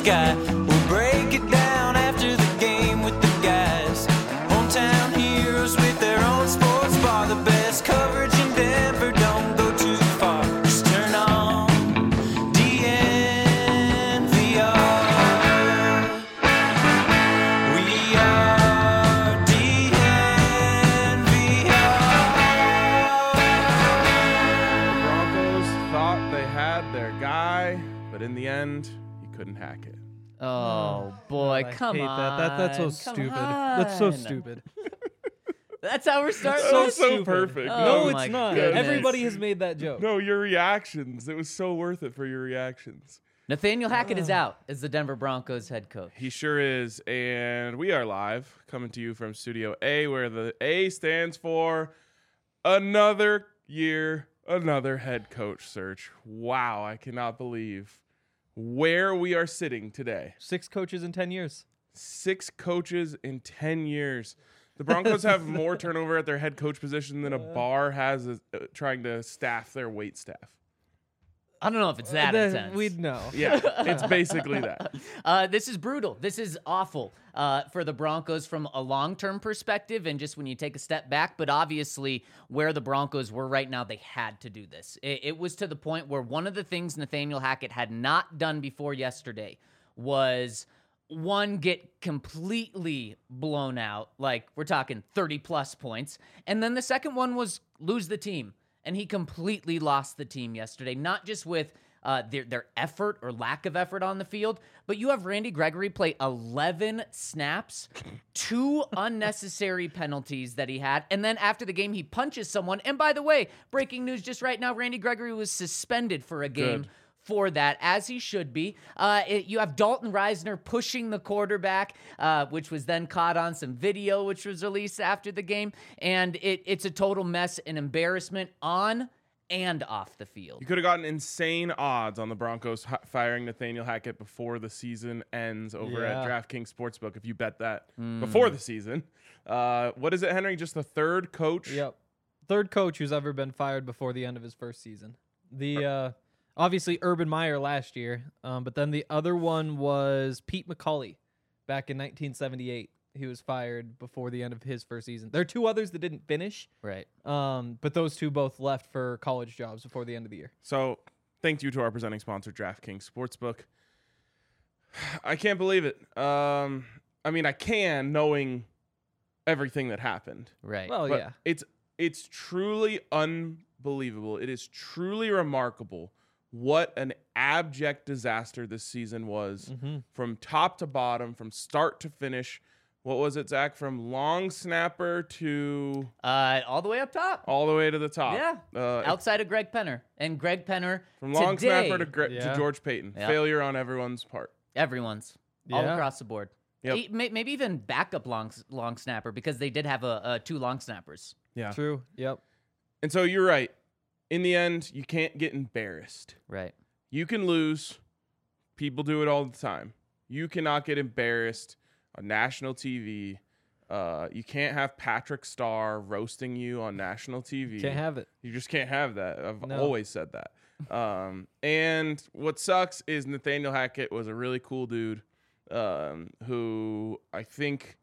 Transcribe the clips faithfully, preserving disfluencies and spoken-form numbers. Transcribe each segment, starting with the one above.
sky. We'll break it down after the game with the guys. Hometown heroes with their own sports bar. The best coverage in Denver, don't go too far. Just turn on D N V R. We are D N V R. The Broncos thought they had their guy, but in the end, he couldn't hack it. Oh boy, I come hate on. that. That that's so Come stupid. That's so on. stupid. That's how we're starting. So this? so stupid. perfect. Oh, no, my it's not. goodness. Everybody has made that joke. No, your reactions. It was so worth it for your reactions. Nathaniel Hackett is out as the Denver Broncos head coach. He sure is. And we are live, coming to you from Studio A, where the A stands for another year, another head coach search. Wow, I cannot believe where we are sitting today. Six coaches in ten years. Six coaches in ten years. The Broncos have more turnover at their head coach position than a bar has uh, trying to staff their wait staff. I don't know if it's that Then intense. We'd know. Yeah, it's basically that. Uh, this is brutal. This is awful uh, for the Broncos from a long-term perspective and just when you take a step back. But obviously, where the Broncos were right now, they had to do this. It, it was to the point where one of the things Nathaniel Hackett had not done before yesterday was, one, get completely blown out. Like, we're talking thirty-plus points. And then the second one was lose the team. And he completely lost the team yesterday, not just with uh, their, their effort or lack of effort on the field, but you have Randy Gregory play eleven snaps, two unnecessary penalties that he had, and then after the game, he punches someone. And by the way, breaking news just right now, Randy Gregory was suspended for a game. Good. For that, as he should be. Uh, it, you have Dalton Reisner pushing the quarterback, uh, which was then caught on some video, which was released after the game. And it, it's a total mess and embarrassment on and off the field. You could have gotten insane odds on the Broncos hi- firing Nathaniel Hackett before the season ends over Yeah. at DraftKings Sportsbook if you bet that Mm. before the season. Uh, what is it, Henry? Just the third coach? Yep. Third coach who's ever been fired before the end of his first season. The uh, obviously Urban Meyer last year, um, but then the other one was Pete McCauley back in nineteen seventy-eight. He was fired before the end of his first season. There are two others that didn't finish, Right. um, but those two both left for college jobs before the end of the year. So thank you to our presenting sponsor, DraftKings Sportsbook. I can't believe it. Um, I mean, I can, knowing everything that happened. Right. Well, But yeah. it's it's truly unbelievable. It is truly remarkable what an abject disaster this season was Mm-hmm. from top to bottom, from start to finish. What was it, Zach? From long snapper to uh, all the way up top. all the way to the top. Yeah. Uh, Outside of Greg Penner. And Greg Penner, from long today, snapper to, Gre- Yeah. to George Payton. Yeah. Failure on everyone's part. everyone's. All Yeah. across the board. Yep. E- may- Maybe even backup long long snapper because they did have a, a two long snappers. Yeah. True. Yep. And so you're right. In the end, you can't get embarrassed. Right. You can lose. People do it all the time. You cannot get embarrassed on national T V. Uh, you can't have Patrick Starr roasting you on national T V. Can't have it. You just can't have that. I've No. always said that. Um, and what sucks is Nathaniel Hackett was a really cool dude um, who I think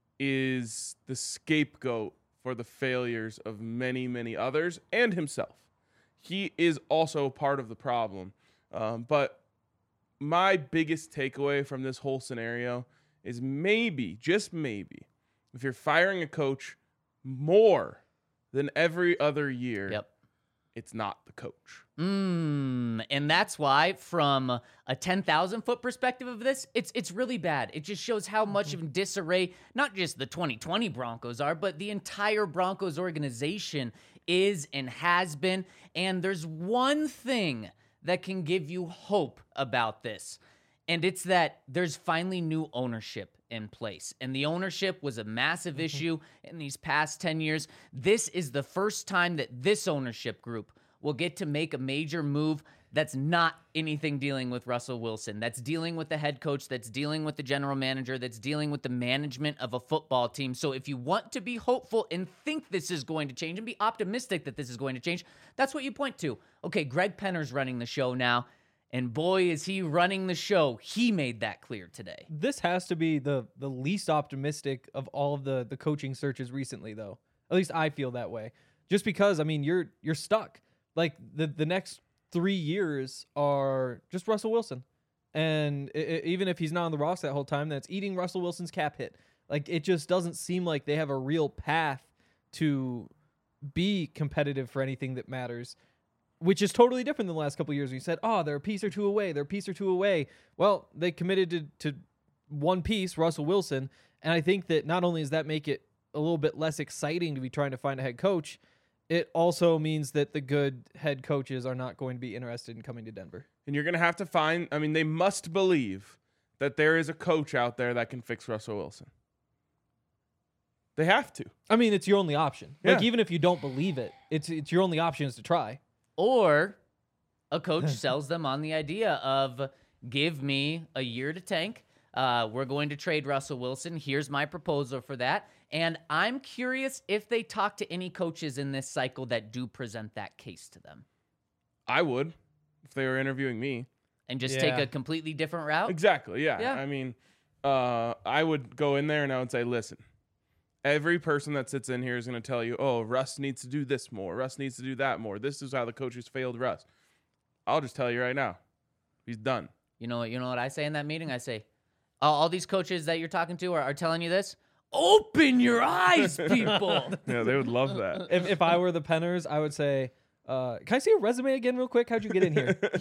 is the scapegoat for the failures of many, many others and himself. He is also part of the problem. Um, but my biggest takeaway from this whole scenario is maybe, just maybe, if you're firing a coach more than every other year, Yep. it's not the coach. Mm, and that's why, from a ten thousand foot perspective of this, it's it's really bad. It just shows how much of disarray, not just the twenty twenty Broncos are, but the entire Broncos organization is and has been. And there's one thing that can give you hope about this, and it's that there's finally new ownership in place. And the ownership was a massive Mm-hmm. issue in these past ten years. This is the first time that this ownership group will get to make a major move that's not anything dealing with Russell Wilson, that's dealing with the head coach, that's dealing with the general manager, that's dealing with the management of a football team. So if you want to be hopeful and think this is going to change and be optimistic that this is going to change, that's what you point to. Okay, Greg Penner's running the show now. And boy, is he running the show. He made that clear today. This has to be the the least optimistic of all of the the coaching searches recently, though. At least I feel that way. Just because, I mean, you're you're stuck. Like the the next three years are just Russell Wilson, and it, it, even if he's not on the roster that whole time, that's eating Russell Wilson's cap hit. Like it just doesn't seem like they have a real path to be competitive for anything that matters. Which is totally different than the last couple of years. We said, oh, they're a piece or two away. They're a piece or two away. Well, they committed to, to one piece, Russell Wilson. And I think that not only does that make it a little bit less exciting to be trying to find a head coach, it also means that the good head coaches are not going to be interested in coming to Denver. And you're going to have to find, I mean, they must believe that there is a coach out there that can fix Russell Wilson. They have to. I mean, it's your only option. Yeah. Like, even if you don't believe it, it's it's your only option is to try. Or a coach sells them on the idea of give me a year to tank. Uh, we're going to trade Russell Wilson. Here's my proposal for that. And I'm curious if they talk to any coaches in this cycle that do present that case to them. I would if they were interviewing me. And just Yeah. take a completely different route? Exactly, yeah. Yeah. I mean, uh, I would go in there and I would say, listen, every person that sits in here is going to tell you, oh, Russ needs to do this more. Russ needs to do that more. This is how the coaches failed Russ. I'll just tell you right now, he's done. You know, you know what I say in that meeting? I say, all, all these coaches that you're talking to are, are telling you this. Open your eyes, people. Yeah, they would love that. If if I were the Penners, I would say, uh, can I see your resume again real quick? How'd you get in here? Uh,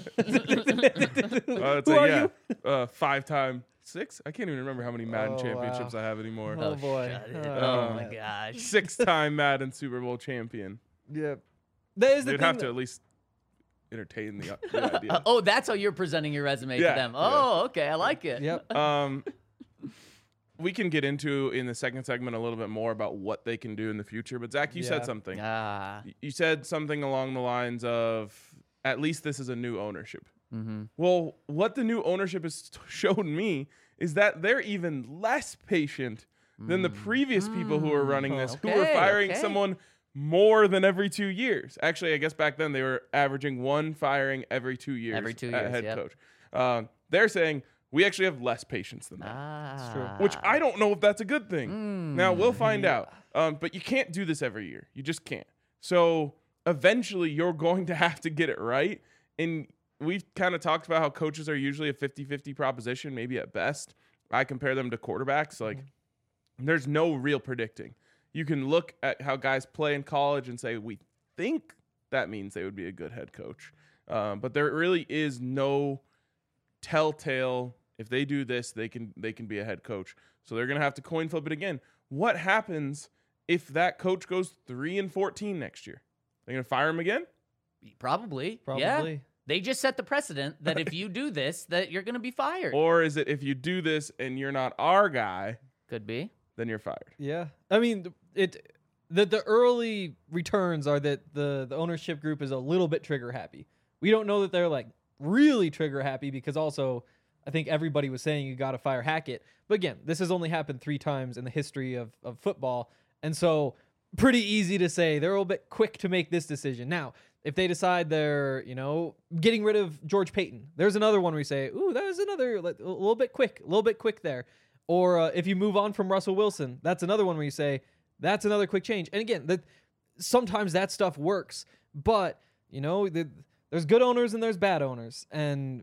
it's Who like, are yeah, you? uh, five-time, six? I can't even remember how many Madden Oh, championships wow. I have anymore. Oh, boy. shut it. Uh, Oh, my gosh. Six-time Madden Super Bowl champion. Yeah. That is the They'd thing have to that- at least entertain the, the idea. Uh, oh, that's how you're presenting your resume Yeah, to them. yeah. Oh, okay. I like it. Yep. Um, we can get into in the second segment a little bit more about what they can do in the future. But Zach, you Yeah. said something. Ah. Y- You said something along the lines of, at least this is a new ownership. Mm-hmm. Well, what the new ownership has t- shown me is that they're even less patient than the previous people who were running this, who were Okay, firing okay. someone more than every two years. Actually, I guess back then they were averaging one firing every two years. Every two at years, head yep. coach. Um, they're saying we actually have less patience than that. Ah. true. Which I don't know if that's a good thing. Mm. Now we'll find out. Um, but you can't do this every year. You just can't. So eventually you're going to have to get it right. And we've kind of talked about how coaches are usually a fifty-fifty proposition, maybe at best. I compare them to quarterbacks. Like there's no real predicting. You can look at how guys play in college and say, we think that means they would be a good head coach. Um, but there really is no telltale. If they do this, they can they can be a head coach. So they're gonna have to coin flip it again. What happens if that coach goes three and fourteen next year? They're gonna fire him again? Probably. Probably. Yeah. They just set the precedent that if you do this, that you're going to be fired. Or is it if you do this and you're not our guy, Could be. then you're fired? Yeah. I mean, it the the early returns are that the the ownership group is a little bit trigger happy. We don't know that they're like really trigger happy because also I think everybody was saying you got to fire Hackett. But again, this has only happened three times in the history of of football. And so pretty easy to say they're a little bit quick to make this decision. Now, if they decide they're, you know, getting rid of George Payton, there's another one where we say, ooh, that was another like, a little bit quick, a little bit quick there. Or uh, if you move on from Russell Wilson, that's another one where you say, that's another quick change. And again, that sometimes that stuff works, but you know, the, there's good owners and there's bad owners. And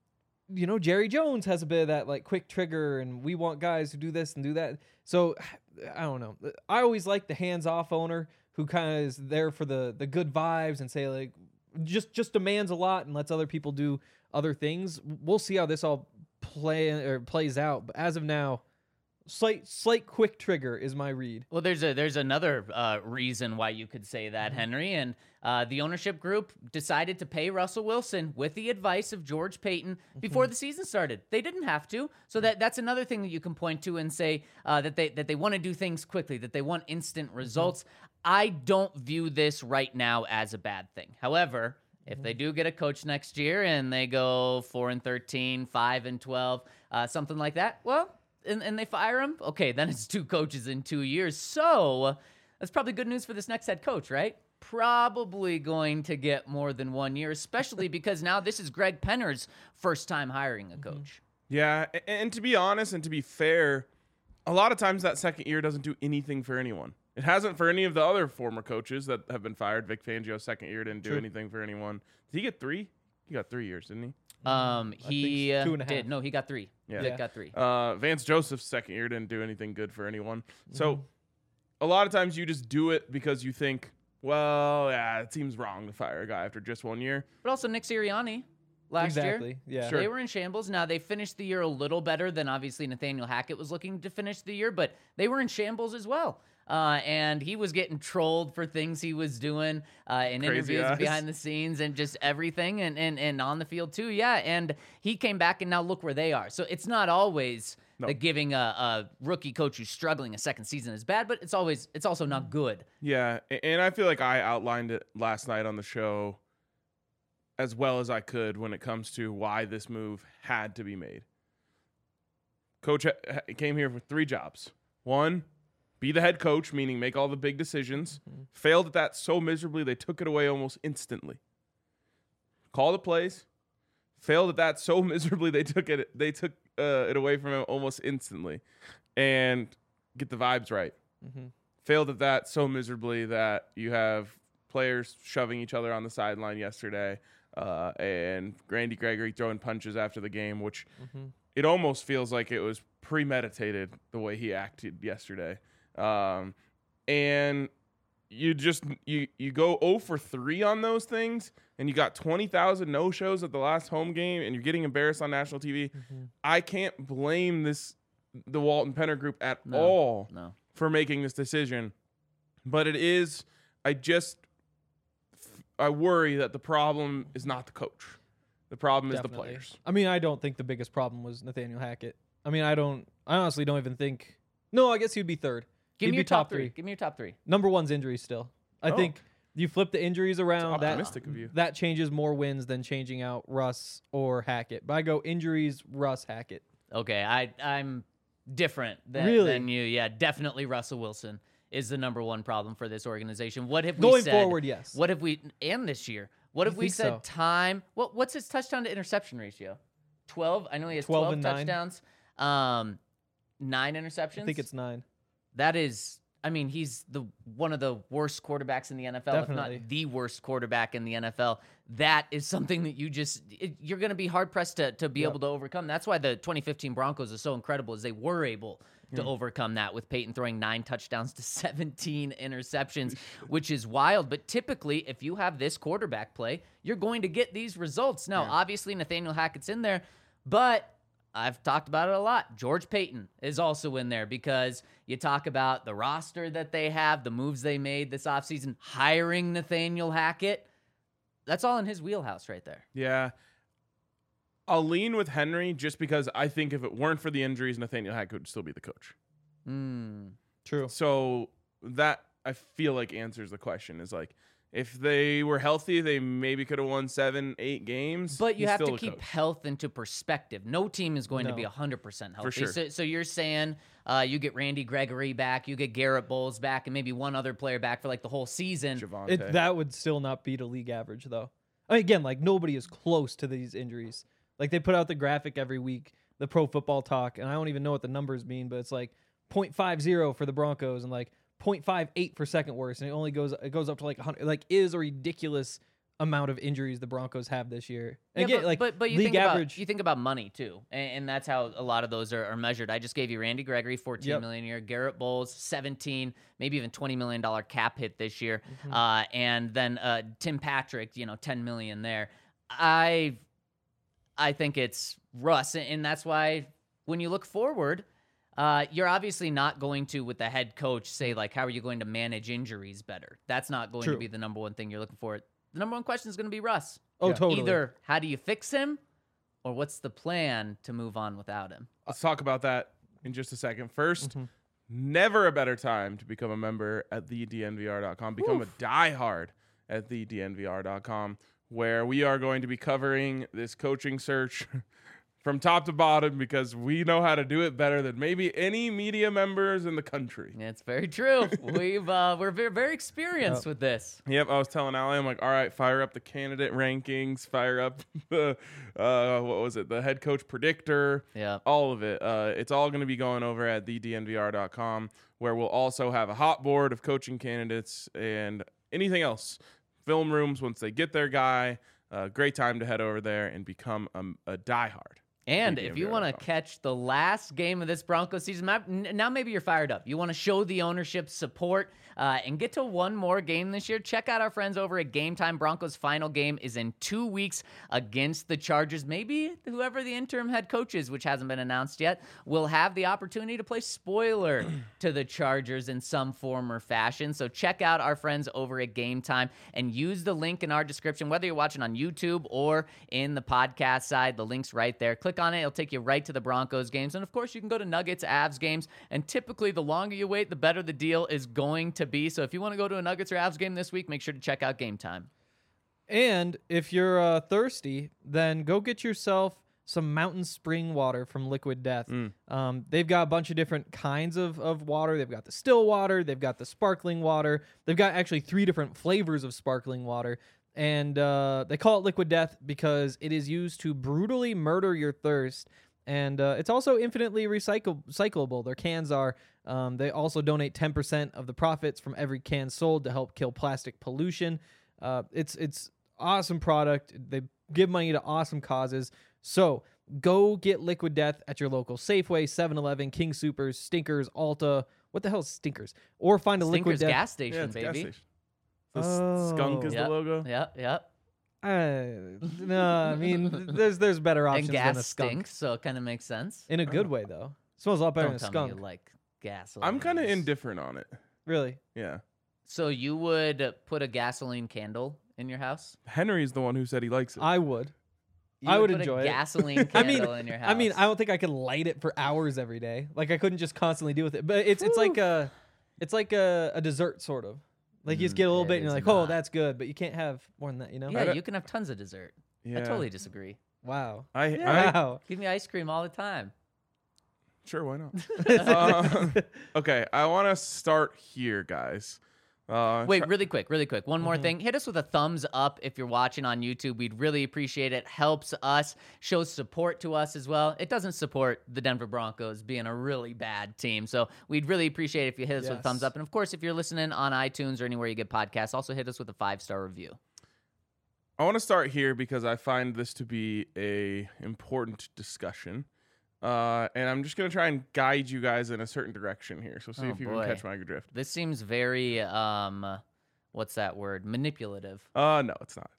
you know, Jerry Jones has a bit of that like quick trigger and we want guys who do this and do that. So I don't know. I always like the hands-off owner who kind of is there for the the good vibes and say like just just demands a lot and lets other people do other things. We'll see how this all play or plays out. But as of now, slight slight quick trigger is my read. Well, there's a there's another uh, reason why you could say that, Henry, and uh, the ownership group decided to pay Russell Wilson with the advice of George Payton before the season started. They didn't have to, so that that's another thing that you can point to and say uh, that they that they want to do things quickly, that they want instant results. I don't view this right now as a bad thing. However, if they do get a coach next year and they go four and thirteen, five and twelve, uh, something like that, well. And, and they fire him, okay, then it's two coaches in two years. So that's probably good news for this next head coach, right? probably going to get more than one year, especially because now this is Greg Penner's first time hiring a coach. Yeah, a- and to be honest and to be fair, a lot of times that second year doesn't do anything for anyone. It hasn't for any of the other former coaches that have been fired. Vic Fangio's second year didn't do True. anything for anyone. Did he get three? He got three years, didn't he? Um, I he think uh, two and a did. half. No, he got three. Yeah. Vic Yeah. got three. Uh, Vance Joseph's second year didn't do anything good for anyone. So Mm-hmm. a lot of times you just do it because you think, well, yeah, it seems wrong to fire a guy after just one year. But also Nick Sirianni last year. Exactly. Yeah. Sure. They were in shambles. Now, they finished the year a little better than obviously Nathaniel Hackett was looking to finish the year, but they were in shambles as well. Uh, and he was getting trolled for things he was doing uh, in Crazy interviews eyes. behind the scenes and just everything and, and, and on the field too. Yeah. And he came back and now look where they are. So it's not always No. that giving a, a rookie coach who's struggling a second season is bad, but it's always, it's also not good. Yeah, a- and I feel like I outlined it last night on the show as well as I could when it comes to why this move had to be made. Coach ha- ha- came here for three jobs. One, be the head coach, meaning make all the big decisions. Failed at that so miserably they took it away almost instantly. Call the plays. Failed at that so miserably they took it they took uh, it away from him almost instantly. And get the vibes right. Mhm. Failed at that so miserably that you have players shoving each other on the sideline yesterday, uh, and Randy Gregory throwing punches after the game, which Mhm. it almost feels like it was premeditated the way he acted yesterday. Um, and you just you you go zero for three on those things, and you got twenty thousand no shows at the last home game, and you're getting embarrassed on national T V. Mhm. I can't blame this the Walton Penner Group at No. all No. for making this decision, but it is. I just I worry that the problem is not the coach. The problem is the Definitely. players. I mean, I don't think the biggest problem was Nathaniel Hackett. I mean, I don't. I honestly don't even think. No, I guess he'd be third. Give He'd me be your top top three. three. Give me your top three. Number one's injuries still. I Oh. think you flip the injuries around. That Optimistic of you. that changes more wins than changing out Russ or Hackett. But I go injuries, Russ, Hackett. Okay, I I'm different than, Really? than you. Yeah, definitely Russell Wilson is the number one problem for this organization. What have we Going said? forward, yes. What have we and this year? What I have we think said? so. Time. What what's his touchdown to interception ratio? Twelve. I know he has twelve twelve, and nine. touchdowns. Um, nine interceptions. I think it's nine. That is, I mean, he's the one of the worst quarterbacks in the N F L, if Definitely. not the worst quarterback in the N F L. That is something that you just it, you're going to be hard pressed to to be Yep. able to overcome. That's why the twenty fifteen Broncos are so incredible, is they were able to overcome that with Peyton throwing nine touchdowns to seventeen interceptions, which is wild. But typically, if you have this quarterback play, you're going to get these results. Now, Yeah. obviously, Nathaniel Hackett's in there, but I've talked about it a lot. George Payton is also in there because you talk about the roster that they have, the moves they made this offseason, hiring Nathaniel Hackett. That's all in his wheelhouse right there. Yeah. I'll lean with Henry just because I think if it weren't for the injuries, Nathaniel Hackett would still be the coach. Mm. True. So that I feel like answers the question. Is like if they were healthy, they maybe could have won seven, eight games. But you He's have to still the keep coach. health into perspective. No team is going to No. be one hundred percent healthy. sure. So, so you're saying uh, you get Randy Gregory back, you get Garrett Bowles back, and maybe one other player back for like the whole season. Javonte. It, that would still not beat a league average, though. I mean, again, like nobody is close to these injuries. Like they put out the graphic every week, the Pro Football Talk, and I don't even know what the numbers mean, but it's like point five zero for the Broncos and like point five eight for second worst, and it only goes it goes up to like one hundred. Like is a ridiculous amount of injuries the Broncos have this year. And Yeah, again, but, like but, but you league think average. about you think about money too, and, and that's how a lot of those are, are measured. I just gave you Randy Gregory, fourteen Yep. million a year, Garrett Bowles, seventeen, maybe even twenty million dollar cap hit this year, Mm-hmm. uh, and then uh, Tim Patrick, you know, ten million there. I I think it's Russ, and that's why when you look forward. Uh, you're obviously not going to, with the head coach, say, like, how are you going to manage injuries better? That's not going to True. be the number one thing you're looking for. The number one question is going to be Russ. oh, Yeah. totally. Either how do you fix him, or what's the plan to move on without him? Let's talk about that in just a second. First, Mhm. never a better time to become a member at the D N V R dot com. Become a diehard at the D N V R dot com, where we are going to be covering this coaching search from top to bottom because we know how to do it better than maybe any media members in the country. It's very true. We've uh, we're very, very experienced Yep. with this. Yep, I was telling Allie, I'm like, all right, fire up the candidate rankings, fire up the, uh, what was it, the head coach predictor, Yeah. all of it. Uh, it's all going to be going over at the d n v r dot com, where we'll also have a hot board of coaching candidates and anything else. Film rooms once they get their guy. Uh, great time to head over there and become a, a diehard. And D D N if V you R want to dot com. catch the last game of this Broncos season, map- n- now maybe you're fired up. You want to show the ownership support uh, and get to one more game this year. Check out our friends over at Game Time. Broncos' final game is in two weeks against the Chargers. Maybe whoever the interim head coach is, which hasn't been announced yet, will have the opportunity to play spoiler to the Chargers in some form or fashion. So check out our friends over at Game Time and use the link in our description, whether you're watching on YouTube or in the podcast side. The link's right there. Click on it. It'll take you right to the Broncos games. And of course, you can go to Nuggets, Avs games. And typically, the longer you wait, the better the deal is going to be. So if you want to go to a Nuggets or Avs game this week, make sure to check out Game Time. And if you're uh, thirsty, then go get yourself some mountain spring water from Liquid Death. Um, they've got a bunch of different kinds of, of water. They've got the still water. They've got the sparkling water. They've got actually three different flavors of sparkling water. And uh, they call it Liquid Death because it is used to brutally murder your thirst. And uh, it's also infinitely recycle- recyclable. Their cans are. Um, they also donate ten percent of the profits from every can sold to help kill plastic pollution. Uh, it's it's awesome product. They give money to awesome causes. So go get Liquid Death at your local Safeway, seven eleven, King Soopers, Stinkers, Ulta. What the hell is Stinkers? Or find a Liquid Stinkers Death. gas Yeah, station, it's a gas baby. station. The s- skunk is Yep. the logo. Yep, yep. Uh, no, I mean, there's there's better options And than a gas skunk. stinks, so it kind of makes sense. In a good way, though. Smells a lot better Don't than a tell skunk. me you like gas. I'm kind of indifferent on it. Really? Yeah. So you would put a gasoline candle in your house? Henry's the one who said he likes it. I would. You I would put enjoy a it. gasoline I candle mean, in your house. I mean, I don't think I could light it for hours every day. Like I couldn't just constantly deal with it. But it's it's like a, it's like a, a dessert sort of. Like you just get a little it bit and you're is like, oh, not. that's good. But you can't have more than that, you know? yeah, don't- you can have tons of dessert. yeah. I totally disagree. Wow. I, I Wow. Give me ice cream all the time. Sure, why not? Um, okay, I want to start here, guys. Uh, Wait, try- really quick, really quick. One more thing. Hit us with a thumbs up if you're watching on YouTube. We'd really appreciate it. Helps us, shows support to us as well. It doesn't support the Denver Broncos being a really bad team. So we'd really appreciate it if you hit us with a Yes. thumbs up. And of course, if you're listening on iTunes or anywhere you get podcasts, also hit us with a five-star review. I want to start here because I find this to be a important discussion, uh, and I'm just gonna try and guide you guys in a certain direction here. So see Oh, if you boy. can catch my drift. This seems very, um, what's that word? Manipulative. Uh, no, it's not.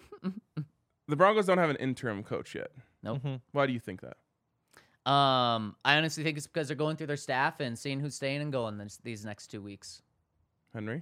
The Broncos don't have an interim coach yet. Nope. Mhm. Why do you think that? Um, I honestly think it's because they're going through their staff and seeing who's staying and going this, these next two weeks. Henry?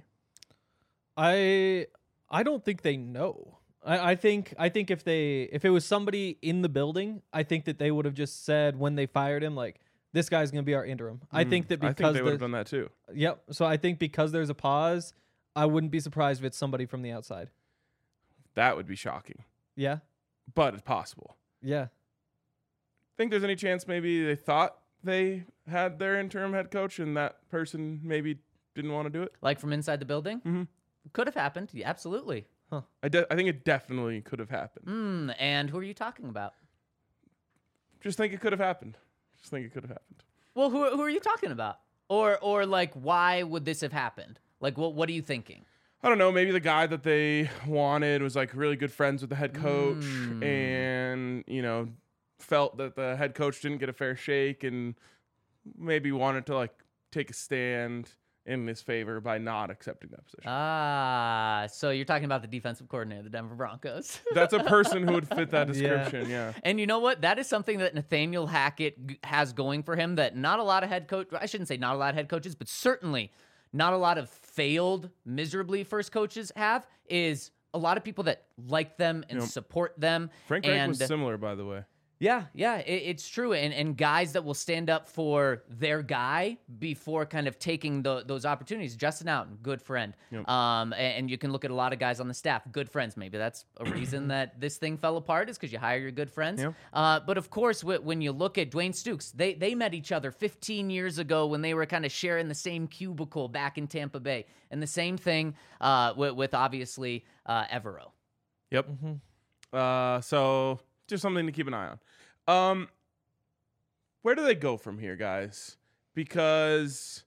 I I don't think they know. I, I think I think if they if it was somebody in the building, I think that they would have just said when they fired him, like, this guy's gonna be our interim. I Mm, think that I because think they would have the- done that too. Yep. So I think because there's a pause, I wouldn't be surprised if it's somebody from the outside. That would be shocking, Yeah. but it's possible. Yeah. Think there's any chance maybe they thought they had their interim head coach and that person maybe didn't want to do it? Like from inside the building? Mhm. Could have happened. Yeah, absolutely. I, de- I think it definitely could have happened. Mm, and who are you talking about? Just think it could have happened. Just think it could have happened. Well, who, who are you talking about? Or or like, why would this have happened? Like, what what are you thinking? I don't know. Maybe the guy that they wanted was like really good friends with the head coach, Mm. and you know, felt that the head coach didn't get a fair shake, and maybe wanted to like take a stand in his favor by not accepting that position. Ah, so you're talking about the defensive coordinator of the Denver Broncos. That's a person who would fit that Yeah. description. Yeah. And you know what? That is something that Nathaniel Hackett g- has going for him that not a lot of head coach, I shouldn't say not a lot of head coaches, but certainly not a lot of failed miserably first coaches have, is a lot of people that like them and Yep. support them. Frank Reich and was similar, by the way. Yeah, yeah, it, it's true. And and guys that will stand up for their guy before kind of taking the, those opportunities. Justin Outen, good friend. Yep. Um, and, and you can look at a lot of guys on the staff, good friends. Maybe that's a reason that this thing fell apart is because you hire your good friends. Yep. Uh, but of course, w- when you look at Dwayne Stukes, they, they met each other fifteen years ago when they were kind of sharing the same cubicle back in Tampa Bay. And the same thing uh, with, with obviously uh, Evero. Yep. Uh, so just something to keep an eye on. Um, where do they go from here, guys? Because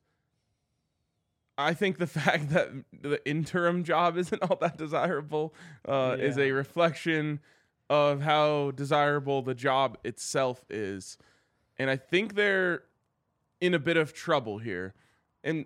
I think the fact that the interim job isn't all that desirable uh, is Yeah. a reflection of how desirable the job itself is. And I think they're in a bit of trouble here. And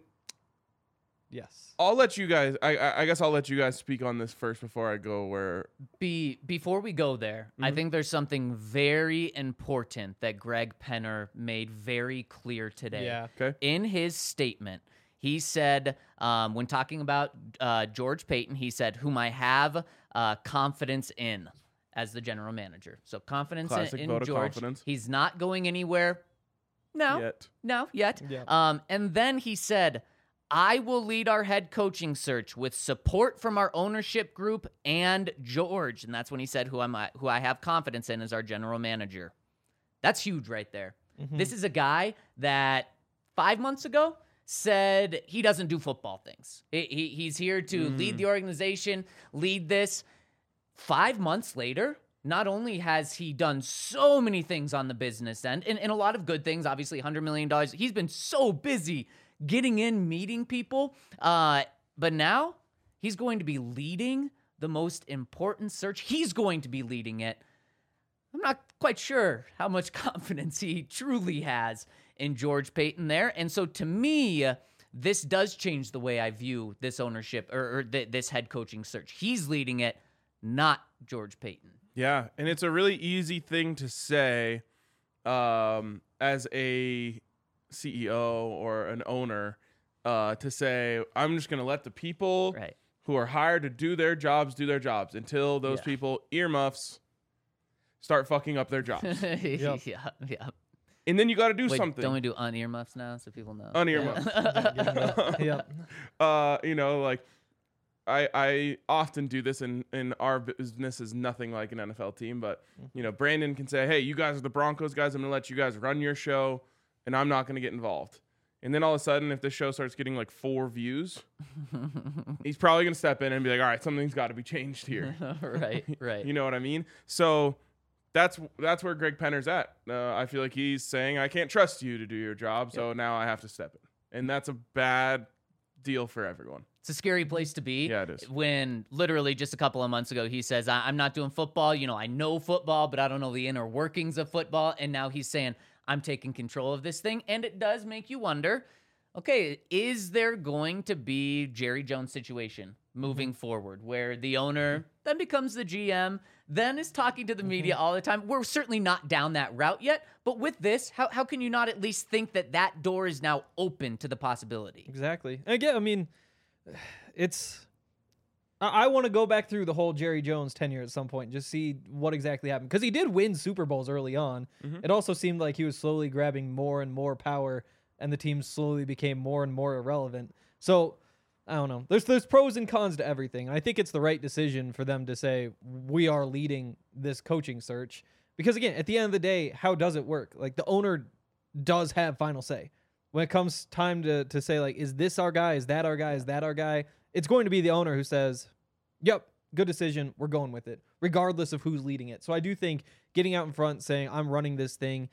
Yes. I'll let you guys, I, I I guess I'll let you guys speak on this first before I go where. Be before we go there, I think there's something very important that Greg Penner made very clear today. Yeah. Okay. In his statement, he said, um, when talking about uh, George Payton, he said, "Whom I have uh, confidence in as the general manager." So confidence in, Classic in vote of George. confidence. He's not going anywhere. No, Yet. no, yet. Yeah. Um, and then he said, I will lead our head coaching search with support from our ownership group and George. And that's when he said, who am I, who I have confidence in as our general manager. That's huge right there. Mm-hmm. This is a guy that five months ago said he doesn't do football things. He, he, he's here to lead the organization, lead this. Five months later, not only has he done so many things on the business end, and, and a lot of good things, obviously one hundred million dollars, he's been so busy getting in, meeting people, uh, but now he's going to be leading the most important search. He's going to be leading it. I'm not quite sure how much confidence he truly has in George Payton there. And so to me, this does change the way I view this ownership or, or th- this head coaching search. He's leading it, not George Payton. Yeah, and it's a really easy thing to say um, as a C E O or an owner uh, to say, I'm just going to let the people Right. who are hired to do their jobs do their jobs until those Yeah. people, earmuffs, start fucking up their jobs. yeah, yeah. And then you got to do Wait, something. don't we do unearmuffs now so people know? Unearmuffs. Yeah. uh, you know, like I I often do this, and and our business is nothing like an N F L team. But you know, Brandon can say, "Hey, you guys are the Broncos guys. I'm gonna let you guys run your show, and I'm not gonna get involved." And then all of a sudden, if the show starts getting like four views, he's probably gonna step in and be like, "All right, something's got to be changed here." right, right. You know what I mean? So that's that's where Greg Penner's at. Uh, I feel like he's saying, "I can't trust you to do your job, so now I have to step in," and that's a bad deal for everyone. It's a scary place to be. Yeah, it is. When literally just a couple of months ago, he says, I- I'm not doing football. You know, I know football, but I don't know the inner workings of football. And now he's saying, I'm taking control of this thing. And it does make you wonder, okay, is there going to be Jerry Jones situation moving forward where the owner then becomes the G M, then is talking to the media all the time? We're certainly not down that route yet. But with this, how, how can you not at least think that that door is now open to the possibility? Exactly. And again, I mean, it's. I, I want to go back through the whole Jerry Jones tenure at some point and just see what exactly happened. Because he did win Super Bowls early on. Mhm. It also seemed like he was slowly grabbing more and more power, and the team slowly became more and more irrelevant. So, I don't know. There's there's pros and cons to everything. And I think it's the right decision for them to say, we are leading this coaching search. Because, again, at the end of the day, how does it work? Like, the owner does have final say. When it comes time to, to say, like, is this our guy? Is that our guy? Is that our guy? It's going to be the owner who says, yep, good decision. We're going with it, regardless of who's leading it. So I do think getting out in front, saying, I'm running this thing,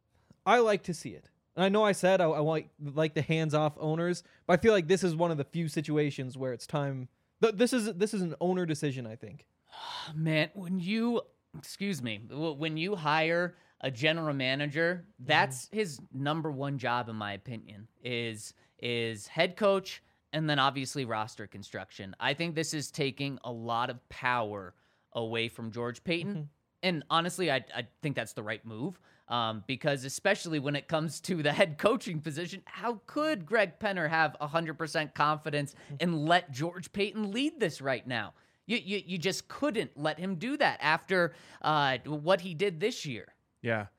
I like to see it. And I know I said I, I like, like the hands-off owners, but I feel like this is one of the few situations where it's time. Th- this is this is an owner decision, I think. Man, when you, excuse me, w- when you hire a general manager, that's his number one job, in my opinion, is is head coach and then obviously roster construction. I think this is taking a lot of power away from George Payton. And honestly, I, I think that's the right move. Um, because especially when it comes to the head coaching position, how could Greg Penner have one hundred percent confidence and let George Payton lead this right now? You, you, you just couldn't let him do that after uh, what he did this year. Yeah.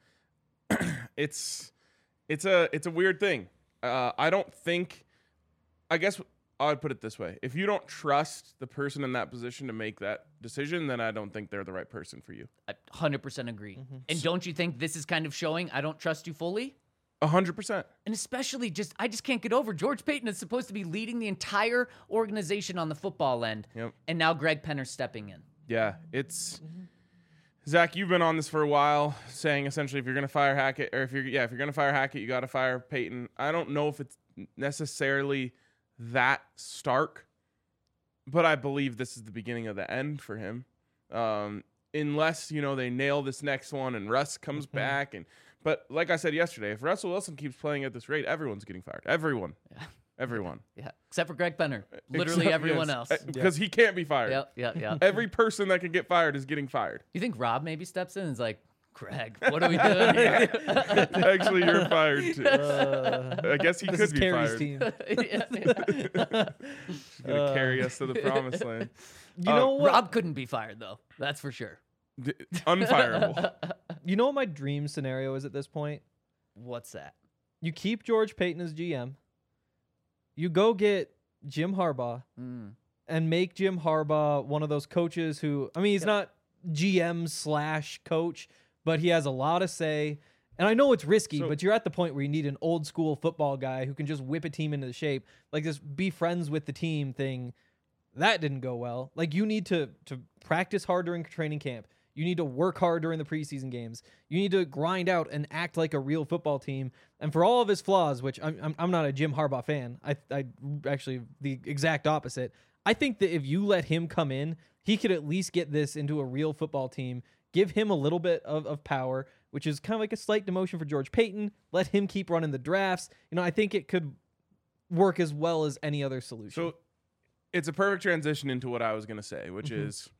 it's it's a it's a weird thing. Uh, I don't think. I guess I would put it this way: if you don't trust the person in that position to make that decision, then I don't think they're the right person for you. I one hundred percent agree. Mm-hmm. And don't you think this is kind of showing I don't trust you fully? A hundred percent. And especially just, I just can't get over George Paton is supposed to be leading the entire organization on the football end. Yep. And now Greg Penner's stepping in. Yeah, it's Zach. You've been on this for a while, saying essentially if you're gonna fire Hackett, or if you're yeah, if you're gonna fire Hackett, you got to fire Payton. I don't know if it's necessarily that stark, but I believe this is the beginning of the end for him. Um, unless you know they nail this next one and Russ comes Mm-hmm. back, and but like I said yesterday, if Russell Wilson keeps playing at this rate, everyone's getting fired. Everyone, Yeah. everyone, Yeah. Except for Greg Penner. Literally Except- everyone yes, else. uh, because he can't be fired. Yep, yep, yep. Every person that can get fired is getting fired. You think Rob maybe steps in and is like, Greg, what are we doing here? Actually, you're fired too. Uh, I guess he this could is be Carrie's fired. team. Yeah, yeah. He's gonna Uh, carry us to the promised land. You Uh, know what? Rob couldn't be fired, though. That's for sure. D- unfireable. You know what my dream scenario is at this point? What's that? You keep George Paton as G M. You go get Jim Harbaugh Mm. and make Jim Harbaugh one of those coaches who, I mean, he's not G M slash coach, but he has a lot of say. And I know it's risky, So- but you're at the point where you need an old school football guy who can just whip a team into the shape. Like this be friends with the team thing. That didn't go well. Like you need to to practice hard during training camp. You need to work hard during the preseason games. You need to grind out and act like a real football team. And for all of his flaws, which I'm I'm, I'm not a Jim Harbaugh fan. I I actually the exact opposite. I think that if you let him come in, he could at least get this into a real football team. Give him a little bit of, of power, which is kind of like a slight demotion for George Paton. Let him keep running the drafts. You know, I think it could work as well as any other solution. So it's a perfect transition into what I was gonna say, which Mhm. is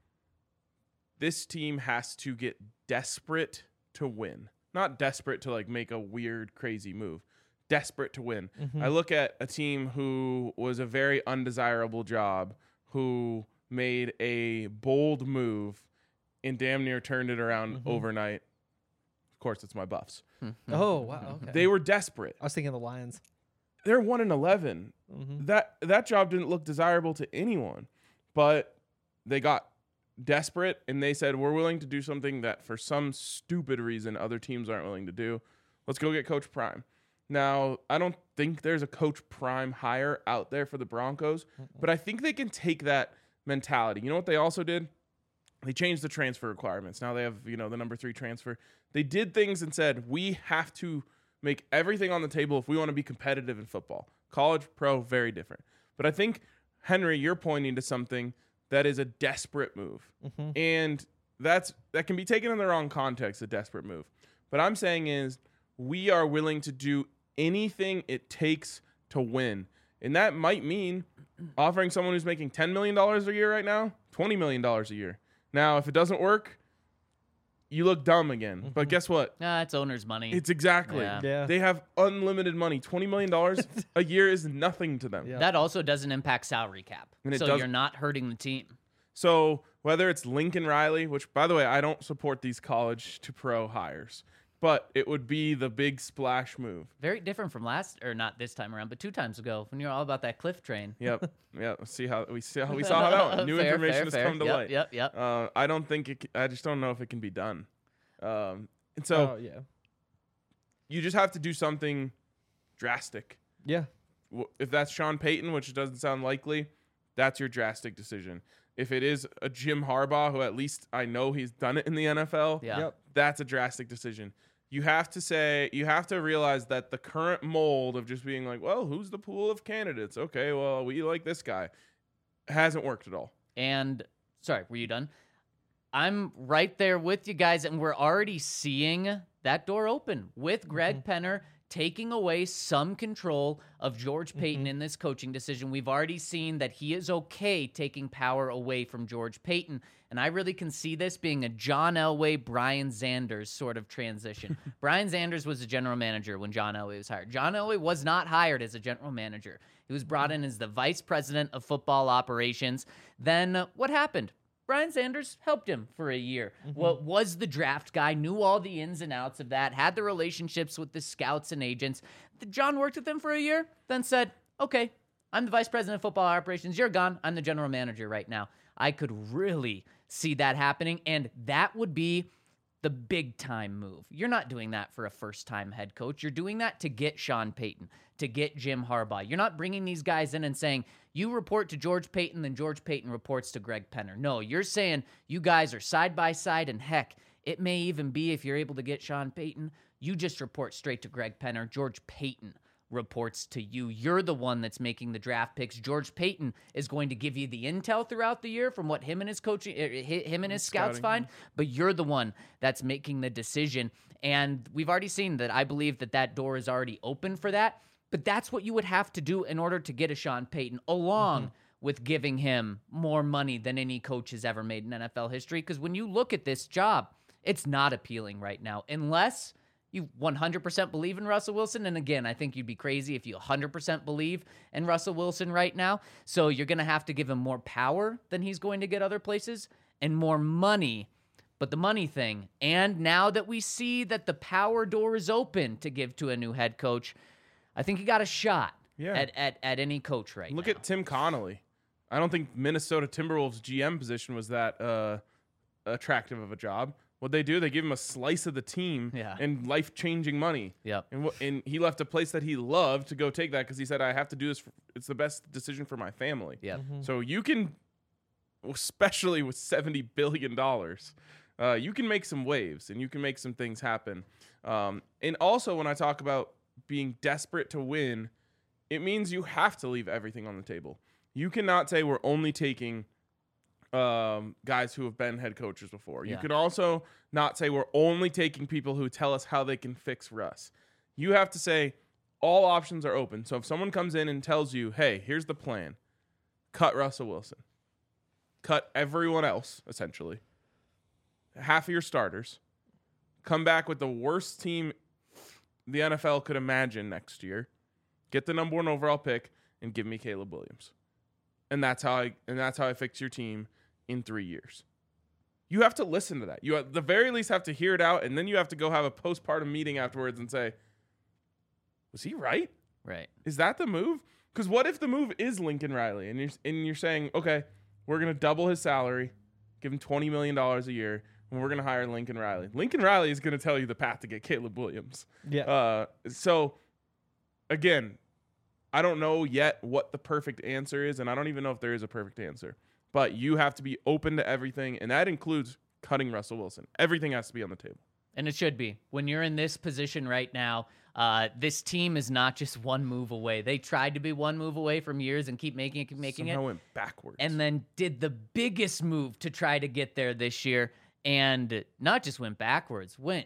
this team has to get desperate to win. Not desperate to like make a weird, crazy move. Desperate to win. Mhm. I look at a team who was a very undesirable job, who made a bold move and damn near turned it around Mhm. overnight. Of course, it's my Buffs. Oh, wow. Okay. They were desperate. I was thinking of the Lions. They're one and eleven. Mhm. That that job didn't look desirable to anyone, but they got desperate and they said, we're willing to do something that for some stupid reason other teams aren't willing to do. Let's go get Coach Prime. Now, I don't think there's a Coach Prime hire out there for the Broncos, but I think they can take that mentality. You know what they also did? They changed the transfer requirements. Now they have, you know, the number three transfer. They did things and said, we have to make everything on the table if we want to be competitive in football. College, pro, very different. But I think, Henry, you're pointing to something that is a desperate move. Mhm. And that's that can be taken in the wrong context, a desperate move. But I'm saying is we are willing to do anything it takes to win. And that might mean offering someone who's making ten million dollars a year right now, twenty million dollars a year. Now, if it doesn't work, you look dumb again. But guess what? Nah, it's owner's money. It's exactly. Yeah. Yeah. They have unlimited money. twenty million dollars a year is nothing to them. Yeah. That also doesn't impact salary cap. And it So does- you're not hurting the team. So whether it's Lincoln Riley, which, by the way, I don't support these college to pro hires, but it would be the big splash move. Very different from last, or not this time around, but two times ago when you're all about that cliff train. Yep. Yep. See how we see how we saw how that one. New Fair, information fair, has fair. come to Yep, light. Yep, yep. Uh, I don't think it. c- I just don't know if it can be done. Um, and so oh, yeah. you just have to do something drastic. Yeah. W- If that's Sean Payton, which doesn't sound likely, that's your drastic decision. If it is a Jim Harbaugh, who at least I know he's done it in the N F L, Yeah. Yep. that's a drastic decision. You have to say, you have to realize that the current mold of just being like, well, who's the pool of candidates? Okay, well, we like this guy, hasn't worked at all. And sorry, were you done? I'm right there with you guys, and we're already seeing that door open with Greg Penner taking away some control of George Paton in this coaching decision. We've already seen that he is okay taking power away from George Paton, and I really can see this being a John Elway, Brian Zanders sort of transition. Brian Zanders was a general manager when John Elway was hired. John Elway was not hired as a general manager. He was brought in as the vice president of football operations. Then uh, what happened? Brian Sanders helped him for a year. Mm-hmm. What was the draft guy, knew all the ins and outs of that, had the relationships with the scouts and agents. John worked with him for a year, then said, okay, I'm the vice president of football operations. You're gone. I'm the general manager right now. I could really see that happening, and that would be the big-time move. You're not doing that for a first-time head coach. You're doing that to get Sean Payton, to get Jim Harbaugh. You're not bringing these guys in and saying, you report to George Payton, then George Payton reports to Greg Penner. No, you're saying you guys are side by side, and heck, it may even be if you're able to get Sean Payton, you just report straight to Greg Penner. George Payton reports to you. You're the one that's making the draft picks. George Payton is going to give you the intel throughout the year from what him and his coaching, him and his scouts Scouting. find, but you're the one that's making the decision. And we've already seen that. I believe that that door is already open for that. But that's what you would have to do in order to get a Sean Payton, along mm-hmm. with giving him more money than any coach has ever made in N F L history. Because when you look at this job, it's not appealing right now, unless you one hundred percent believe in Russell Wilson. And again, I think you'd be crazy if you one hundred percent believe in Russell Wilson right now. So you're going to have to give him more power than he's going to get other places and more money. But the money thing, and now that we see that the power door is open to give to a new head coach, I think you got a shot yeah. at, at, at any coach right Look now. at Tim Connolly. I don't think Minnesota Timberwolves G M position was that uh, attractive of a job. What they do, they give him a slice of the team Yeah. and life-changing money. Yep. And, wh- and he left a place that he loved to go take that because he said, I have to do this. For, it's the best decision for my family. Yep. Mm-hmm. So you can, especially with seventy billion dollars, uh, you can make some waves and you can make some things happen. Um, and also when I talk about being desperate to win, it means you have to leave everything on the table. You cannot say we're only taking um, guys who have been head coaches before. You Yeah. can also not say we're only taking people who tell us how they can fix Russ. You have to say all options are open. So if someone comes in and tells you, hey, here's the plan, cut Russell Wilson, cut everyone else, essentially, half of your starters, come back with the worst team the N F L could imagine next year, get the number one overall pick, and give me Caleb Williams. And that's how I and that's how I fix your team in three years. You have to listen to that. You at the very least have to hear it out, and then you have to go have a postpartum meeting afterwards and say, was he right? Right. Is that the move? Because what if the move is Lincoln Riley, and you're and you're saying, okay, we're gonna double his salary, give him twenty million dollars a year, and we're gonna hire Lincoln Riley. Lincoln Riley is gonna tell you the path to get Caleb Williams. Yeah. Uh, so again, I don't know yet what the perfect answer is, and I don't even know if there is a perfect answer. But you have to be open to everything, and that includes cutting Russell Wilson. Everything has to be on the table. And it should be. When you're in this position right now, uh, this team is not just one move away. They tried to be one move away from years and keep making it, keep making Somehow it. went backwards. And then did the biggest move to try to get there this year, and not just went backwards, went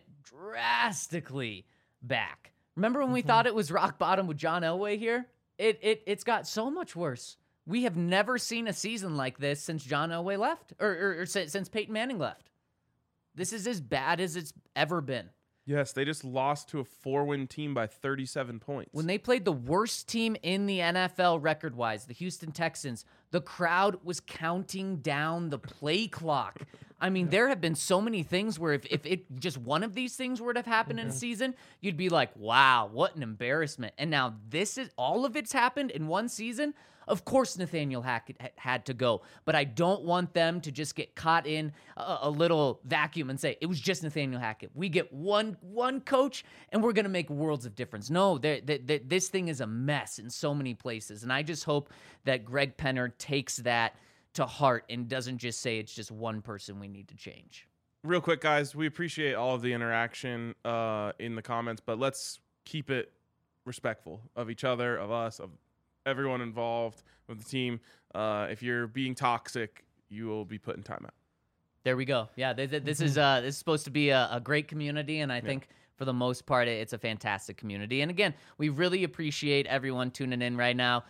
drastically back. Remember when we Mm-hmm. thought it was rock bottom with John Elway here? It it it's got so much worse. We have never seen a season like this since John Elway left, or, or, or since since Peyton Manning left. This is as bad as it's ever been. Yes, they just lost to a four-win team by thirty-seven points. When they played the worst team in the N F L record-wise, the Houston Texans, the crowd was counting down the play clock. I mean, there have been so many things where if, if it just one of these things were to have happened in a season, you'd be like, wow, what an embarrassment. And now this is all of it's happened in one season. Of course, Nathaniel Hackett had to go, but I don't want them to just get caught in a, a little vacuum and say it was just Nathaniel Hackett. We get one one coach, and we're going to make worlds of difference. No, they're, they're, they're, this thing is a mess in so many places, and I just hope that Greg Penner takes that to heart and doesn't just say it's just one person we need to change. Real quick, guys, we appreciate all of the interaction uh, in the comments, but let's keep it respectful of each other, of us, of everyone involved with the team. Uh, if you're being toxic, you will be put in timeout. There we go. Yeah, this, this is uh, this is supposed to be a, a great community, and I think for the most part, it's a fantastic community. And again, we really appreciate everyone tuning in right now.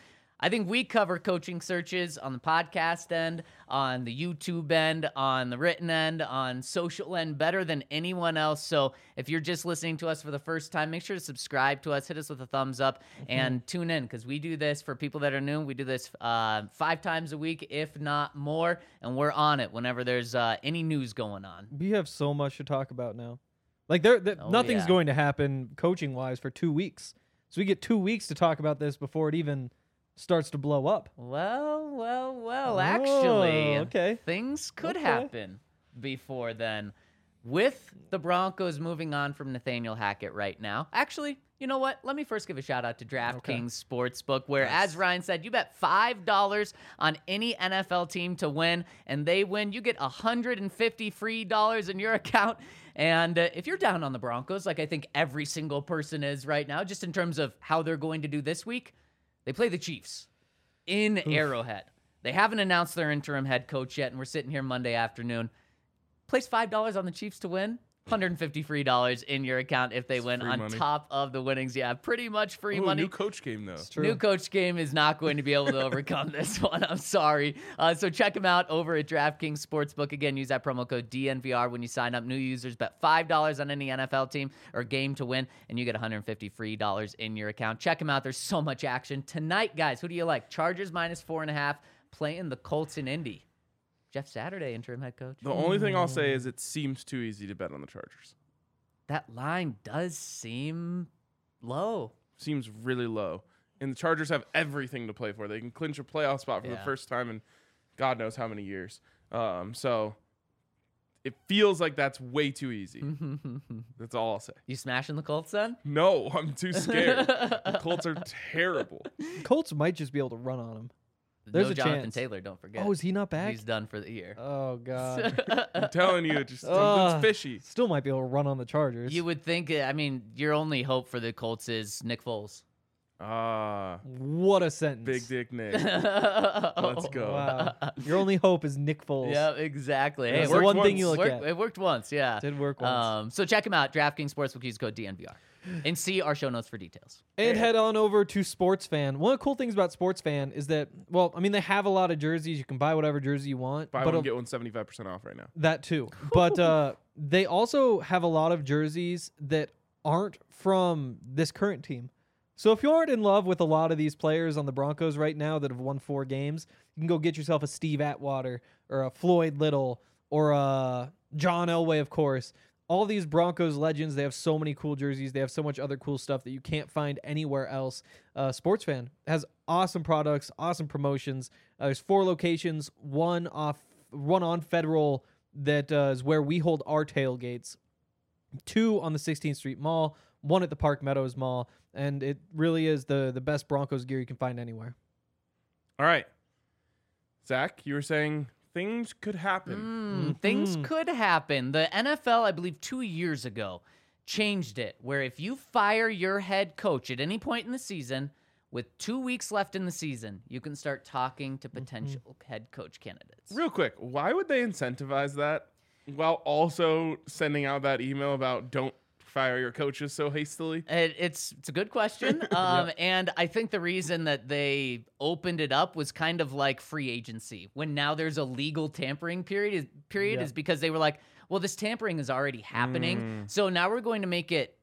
I think we cover coaching searches on the podcast end, on the YouTube end, on the written end, on social end better than anyone else. So if you're just listening to us for the first time, make sure to subscribe to us, hit us with a thumbs up, and tune in because we do this for people that are new. We do this uh, five times a week, if not more, and we're on it whenever there's uh, any news going on. We have so much to talk about now. Like there, there Oh, nothing's yeah. going to happen coaching wise for two weeks. So we get two weeks to talk about this before it even starts to blow up. Well, well, well, Oh, actually, okay. things could Okay. happen before then. With the Broncos moving on from Nathaniel Hackett right now. Actually, you know what? Let me first give a shout out to DraftKings Sportsbook, where, as Ryan said, you bet five dollars on any N F L team to win, and they win. You get one hundred fifty free dollars in your account. And uh, if you're down on the Broncos, like I think every single person is right now, just in terms of how they're going to do this week, they play the Chiefs in Arrowhead. They haven't announced their interim head coach yet, and we're sitting here Monday afternoon. Place five dollars on the Chiefs to win. one hundred fifty free dollars in your account if they It's win free on money. top of the winnings. Yeah, pretty much free Ooh, money. new coach game though. True. New coach game is not going to be able to overcome this one. I'm sorry. Uh, so check them out over at DraftKings Sportsbook. Again, use that promo code D N V R when you sign up. New users bet five dollars on any N F L team or game to win, and you get one hundred fifty free dollars in your account. Check them out. There's so much action. Tonight, guys, who do you like? Chargers minus four and a half, playing the Colts in Indy. Jeff Saturday, interim head coach. The only thing I'll say is it seems too easy to bet on the Chargers. That line does seem low. Seems really low. And the Chargers have everything to play for. They can clinch a playoff spot for Yeah. the first time in God knows how many years. Um, so it feels like that's way too easy. That's all I'll say. You smashing the Colts then? No, I'm too scared. The Colts are terrible. Colts might just be able to run on him. There's no a Jonathan chance. Taylor, don't forget. Oh, is he not back? He's done for the year. Oh god. I'm telling you, just something's Ugh. fishy. Still might be able to run on the Chargers. You would think, uh, I mean, your only hope for the Colts is Nick Foles. Ah, What a sentence. big dick Nick. Let's Let's go. Wow. Your only hope is Nick Foles. Yeah, exactly. Hey, That's it the worked one thing once. you look Worked- at. It worked once, yeah. Did work once. Um, so check him out, DraftKings Sportsbook. Use code D N V R. And see our show notes for details. And head on over to Sports Fan. One of the cool things about Sports Fan is that, well, I mean, they have a lot of jerseys. You can buy whatever jersey you want. Buy but one, a- get one seventy-five percent off right now. That too. But uh, they also have a lot of jerseys that aren't from this current team. So if you aren't in love with a lot of these players on the Broncos right now that have won four games, you can go get yourself a Steve Atwater or a Floyd Little or a John Elway, of course. All these Broncos legends, they have so many cool jerseys. They have so much other cool stuff that you can't find anywhere else. Uh, Sports Fan has awesome products, awesome promotions. Uh, there's four locations, one off, one on Federal that uh, is where we hold our tailgates, two on the sixteenth Street Mall, one at the Park Meadows Mall, and it really is the the best Broncos gear you can find anywhere. All right. Zach, you were saying things could happen. Mm, Things Mhm. could happen. The N F L, I believe, two years ago, changed it where if you fire your head coach at any point in the season, with two weeks left in the season, you can start talking to potential head coach candidates. Real quick, why would they incentivize that while also sending out that email about don't fire your coaches so hastily? It, it's it's a good question, um, and I think the reason that they opened it up was kind of like free agency. When now there's a legal tampering period, is, period Yeah. is because they were like, well, this tampering is already happening, so now we're going to make it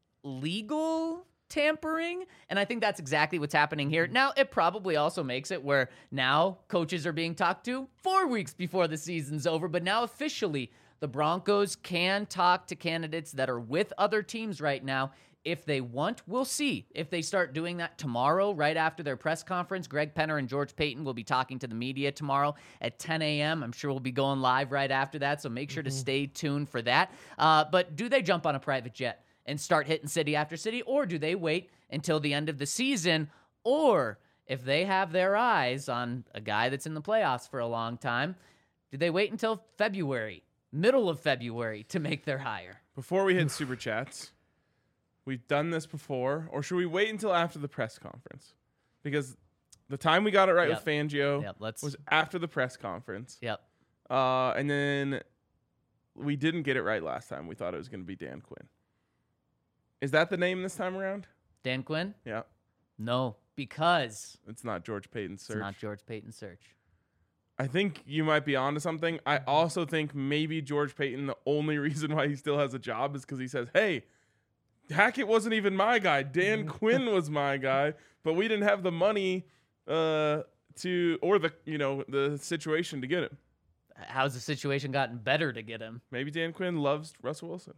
legal tampering, and I think that's exactly what's happening here. Now, it probably also makes it where now coaches are being talked to four weeks before the season's over, but now officially the Broncos can talk to candidates that are with other teams right now if they want. We'll see if they start doing that tomorrow, right after their press conference. Greg Penner and George Payton will be talking to the media tomorrow at ten a.m. I'm sure we'll be going live right after that, so make sure to stay tuned for that. Uh, but do they jump on a private jet and start hitting city after city, or do they wait until the end of the season? Or if they have their eyes on a guy that's in the playoffs for a long time, do they wait until February? Middle of February to make their hire. Before we hit super chats, we've done this before, or should we wait until after the press conference? Because the time we got it right Yep. with Fangio Yep, let's. was after the press conference. Yep. Uh, and then we didn't get it right last time. We thought it was going to be Dan Quinn. Is that the name this time around? Dan Quinn? Yeah. No. because It's not George Payton's it's search. not George Payton's search. I think you might be onto something. I also think maybe George Payton, the only reason why he still has a job is because he says, hey, Hackett wasn't even my guy. Dan Quinn was my guy, but we didn't have the money uh, to, or the, you know, the situation to get him. How's the situation gotten better to get him? Maybe Dan Quinn loves Russell Wilson.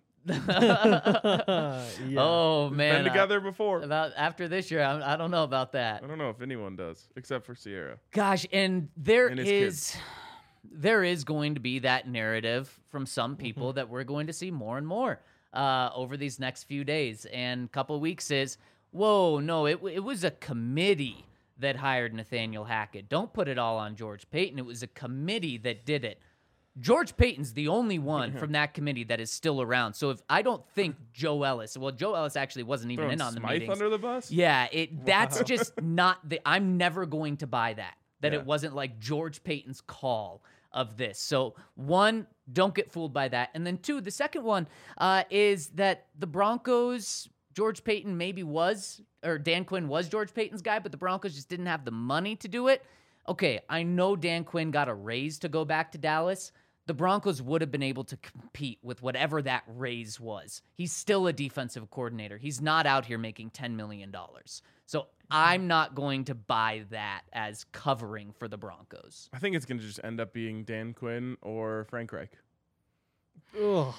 yeah. Oh man, Been together before. I, about after this year, I, I don't know about that. I don't know if anyone does, except for Sierra. Gosh, and there And his is there is going to be that narrative from some people Mm-hmm. that we're going to see more and more uh, over these next few days and couple weeks. Is whoa, no, it it was a committee that hired Nathaniel Hackett. Don't put it all on George Payton. It was a committee that did it. George Payton's the only one from that committee that is still around. So if I don't think Joe Ellis, well, Joe Ellis actually wasn't even Throwing in on the Smythe meetings. under the bus? Yeah, it that's just not the. I'm never going to buy that. That Yeah. it wasn't like George Payton's call of this. So one, don't get fooled by that, and then two, the second one uh, is that the Broncos. George Payton maybe was, or Dan Quinn was George Payton's guy, but the Broncos just didn't have the money to do it. Okay, I know Dan Quinn got a raise to go back to Dallas. The Broncos would have been able to compete with whatever that raise was. He's still a defensive coordinator. He's not out here making ten million dollars. So I'm not going to buy that as covering for the Broncos. I think it's going to just end up being Dan Quinn or Frank Reich. Ugh,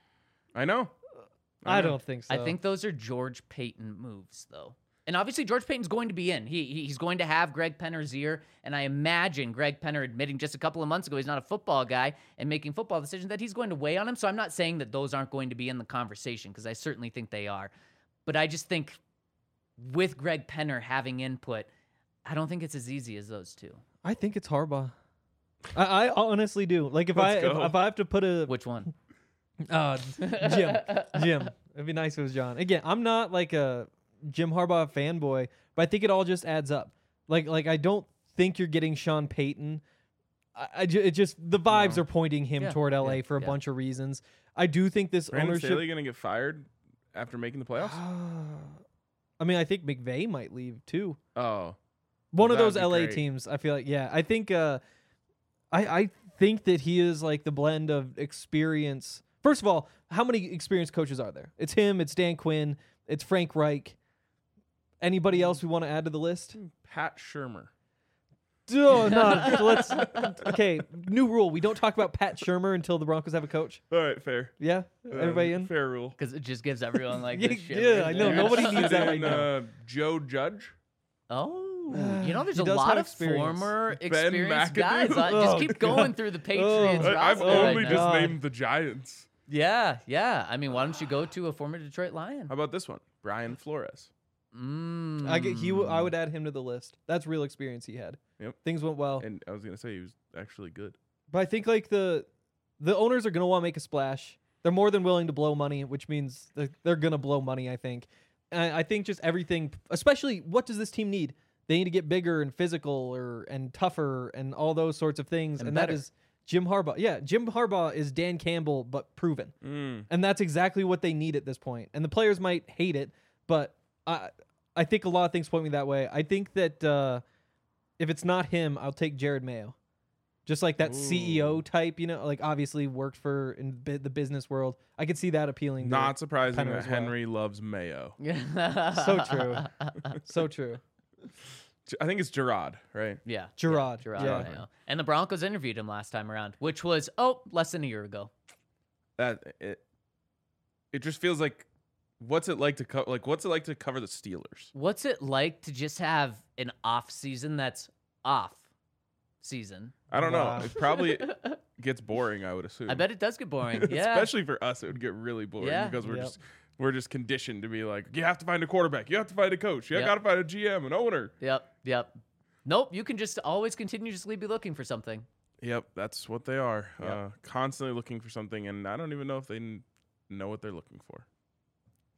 I know. I know. don't think so. I think those are George Payton moves, though. And obviously, George Payton's going to be in. He He's going to have Greg Penner's ear. And I imagine Greg Penner admitting just a couple of months ago he's not a football guy and making football decisions that he's going to weigh on him. So I'm not saying that those aren't going to be in the conversation because I certainly think they are. But I just think with Greg Penner having input, I don't think it's as easy as those two. I think it's Harbaugh. I, I honestly do. Like if I Let's if, go. if I have to put a Which one? uh, Jim Jim, it'd be nice if it was John. Again, I'm not like a Jim Harbaugh fanboy, but I think it all just adds up. Like like I don't think you're getting Sean Payton. I, I ju- it just the vibes No. are pointing him Yeah, toward L A yeah, for a yeah. bunch of reasons. I do think this Brandon ownership. Staley going to get fired after making the playoffs? I mean, I think McVay might leave too. Oh. One of That'd those be L A great. teams. I feel like yeah. I think uh, I I think that he is like the blend of experience. First of all, how many experienced coaches are there? It's him. It's Dan Quinn. It's Frank Reich. Anybody else we want to add to the list? Pat Shermer. Oh, no. So let's. Okay, new rule: we don't talk about Pat Shermer until the Broncos have a coach. All right, fair. Yeah, Uh, everybody in. Fair rule. Because it just gives everyone like Yeah, this shit. yeah, I know. Nobody needs that right And, now. Uh, Joe Judge. Oh, you know, there's He a does lot have of experience. former Ben experienced McAdoo. guys. Uh, just Oh, keep God. going through the Patriots Oh. I, I've roster only right just now. God. named the Giants. Yeah, yeah. I mean, why don't you go to a former Detroit Lion? How about this one? Brian Flores. Mm. I get he. w- I would add him to the list. That's real experience he had. Yep. Things went well. And I was going to say he was actually good. But I think like the the owners are gonna want to make a splash. They're more than willing to blow money, which means they're, they're gonna blow money. I think. And I think just everything, especially what does this team need? They need to get bigger and physical, or and tougher, and all those sorts of things. And And, that better. is Jim Harbaugh. Yeah, Jim Harbaugh is Dan Campbell, but proven. Mm. And that's exactly what they need at this point. And the players might hate it, but I I think a lot of things point me that way. I think that uh, if it's not him, I'll take Jared Mayo. Just like that C E O Ooh. type, you know, like obviously worked for in bi- the business world. I could see that appealing. to Not surprising Penner that as well. Henry loves Mayo. So true. So true. J- I think it's Gerard, right? Yeah, Gerard, Yeah, Gerard yeah. Mayo. And the Broncos interviewed him last time around, which was oh less than a year ago. That it, it just feels like what's it like to co- like what's it like to cover the Steelers? What's it like to just have an off season that's off season? I don't Wow. know. It probably gets boring, I would assume. I bet it does get boring. Yeah, Especially for us, it would get really boring Yeah. because we're Yep. just we're just conditioned to be like, you have to find a quarterback, you have to find a coach, you Yep. got to find a G M, an owner. Yep, yep. Nope, you can just always continuously be looking for something. Yep, that's what they are. Yep. Uh, constantly looking for something, and I don't even know if they n- know what they're looking for.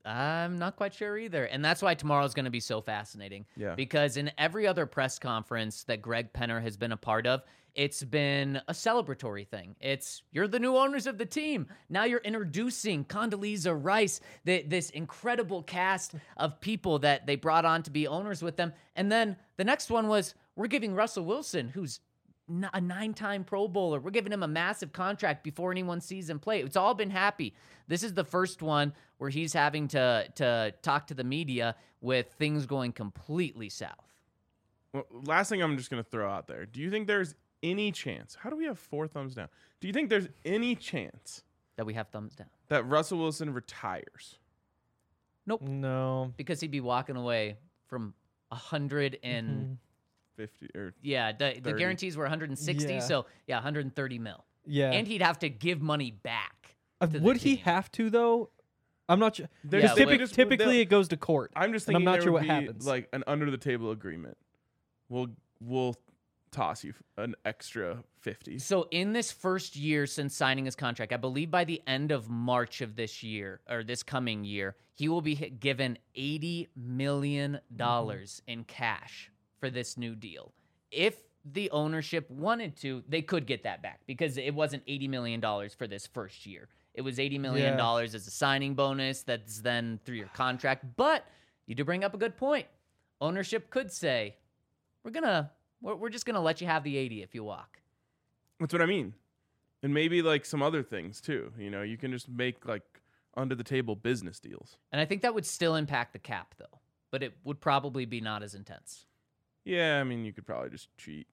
I'm not quite sure either. And that's why tomorrow's going to be so fascinating. Yeah. Because in every other press conference that Greg Penner has been a part of, it's been a celebratory thing. It's, you're the new owners of the team. Now you're introducing Condoleezza Rice, the, this incredible cast of people that they brought on to be owners with them. And then the next one was, we're giving Russell Wilson, who's a nine-time Pro Bowler, we're giving him a massive contract before anyone sees him play. It's all been happy. This is the first one where he's having to to talk to the media with things going completely south. Well, last thing I'm just going to throw out there. Do you think there's any chance? How do we have four thumbs down? Do you think there's any chance That we have thumbs down. that Russell Wilson retires? Nope. No. Because he'd be walking away from a hundred and Mhm. fifty or yeah, the, the thirty. guarantees were one hundred sixty, Yeah. so yeah, one hundred thirty mil. Yeah. And he'd have to give money back. Uh, to the would he team. have to though? I'm not sure. There's- Yeah, Because they typic- just- typically they'll- it goes to court. I'm just And I'm thinking not there sure would what be happens. like an under the table agreement. We'll we'll toss you an extra fifty. So in this first year since signing his contract, I believe by the end of March of this year or this coming year, he will be hit- given eighty million dollars Mm-hmm. in cash for this new deal. If the ownership wanted to, they could get that back because it wasn't eighty million dollars for this first year. It was eighty million dollars as a signing bonus that's then through your contract. But you do bring up a good point. Ownership could say, we're going to We're, we're just going to let you have the eighty if you walk. That's what I mean. And maybe like some other things too. You know, you can just make like under the table business deals. And I think that would still impact the cap, though. But it would probably be not as intense. Yeah, I mean, you could probably just cheat.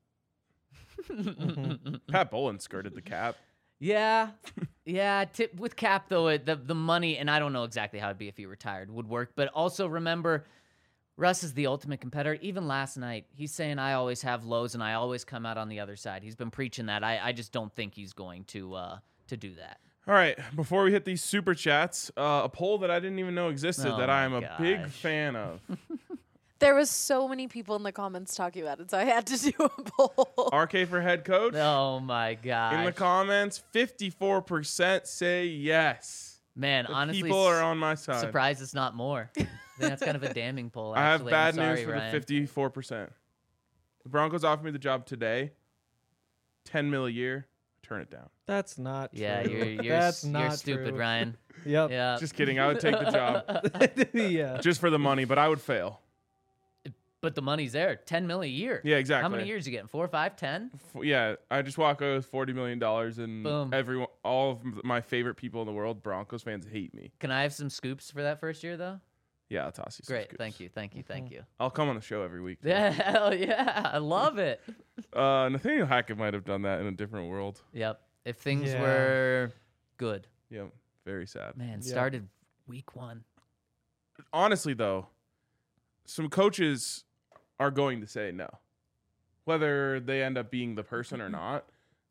Mm-hmm. Pat Bowlen skirted the cap. Yeah. Yeah. Tip, with cap, though, it, the, the money, and I don't know exactly how it'd be if he retired, would work. But also remember, Russ is the ultimate competitor. Even last night, he's saying, I always have lows and I always come out on the other side. He's been preaching that. I, I just don't think he's going to uh, to do that. All right, before we hit these super chats, uh, a poll that I didn't even know existed Oh that I am my a big gosh. fan of. There was so many people in the comments talking about it, so I had to do a poll. R K for head coach. Oh, my God. In the comments, fifty-four percent say yes. Man, The honestly, people are on my side. surprised it's not more. I think that's kind of a damning poll, I have actually. bad I'm sorry, news for Ryan. the fifty-four percent. The Broncos offered me the job today. ten mil a year. Turn it down. That's not Yeah, true. you're you're, That's s- not you're stupid, true. Ryan. Yep. Yeah. Just kidding. I would take the job yeah. just for the money, but I would fail. But the money's there. Ten mil a year. Yeah, exactly. How many years you getting? Four, five, ten? F- Yeah, I just walk away with forty million dollars, and Boom. everyone, all of my favorite people in the world, Broncos fans, hate me. Can I have some scoops for that first year, though? Yeah, I'll toss you some Great. scoops. Thank you. Thank you. Thank you. I'll come on the show every week. too. Yeah, hell yeah. I love it. Uh, Nathaniel Hackett might have done that in a different world. Yep. If things Yeah. were good. Yeah, very sad. Man, Yeah. started week one. Honestly, though, some coaches are going to say no, whether they end up being the person or not.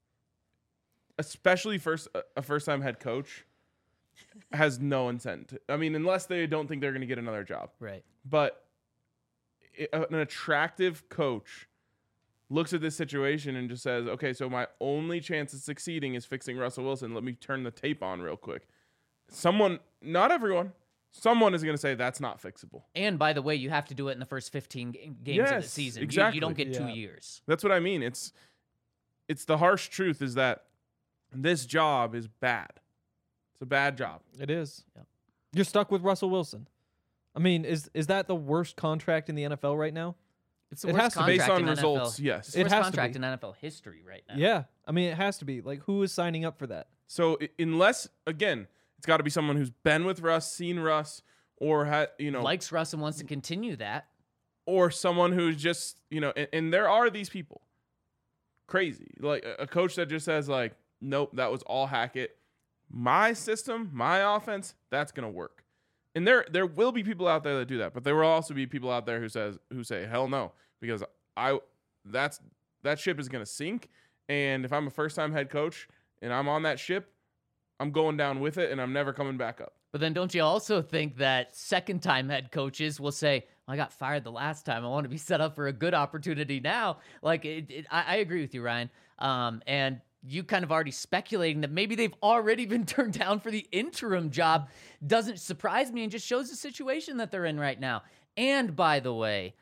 Especially first a first-time head coach has no incentive. I mean, unless they don't think they're going to get another job. Right. But i- an attractive coach looks at this situation and just says, okay, so my only chance of succeeding is fixing Russell Wilson. Let me turn the tape on real quick. Someone, not everyone, someone is going to say that's not fixable. And by the way, you have to do it in the first fifteen ga- games of the Yes, season. You- exactly. You, don't get two Yeah. years. That's what I mean. It's it's the harsh truth is that this job is bad. It's a bad job. It is. Yep. You're stuck with Russell Wilson. I mean, is is that the worst contract in the N F L right now? It's the It worst has to be. contract Based on in results, N F L. yes. It's the It worst has to contract be. in N F L history right now. Yeah. I mean, it has to be. Like, who is signing up for that? So i- unless again, it's got to be someone who's been with Russ, seen Russ, or had you know, Likes Russ and wants to continue that. or someone who's just you know, and, and there are these people, crazy like a, a coach that just says like, nope, that was all Hackett. My system, my offense, that's gonna work. And there there will be people out there that do that, but there will also be people out there who says who say hell no because I that's that ship is gonna sink. And if I'm a first time head coach and I'm on that ship, I'm going down with it and I'm never coming back up. But then don't you also think that second time head coaches will say, I got fired the last time. I want to be set up for a good opportunity now. Like, it, it, I, I agree with you, Ryan. Um, and you kind of already speculating that maybe they've already been turned down for the interim job doesn't surprise me and just shows the situation that they're in right now. And by the way,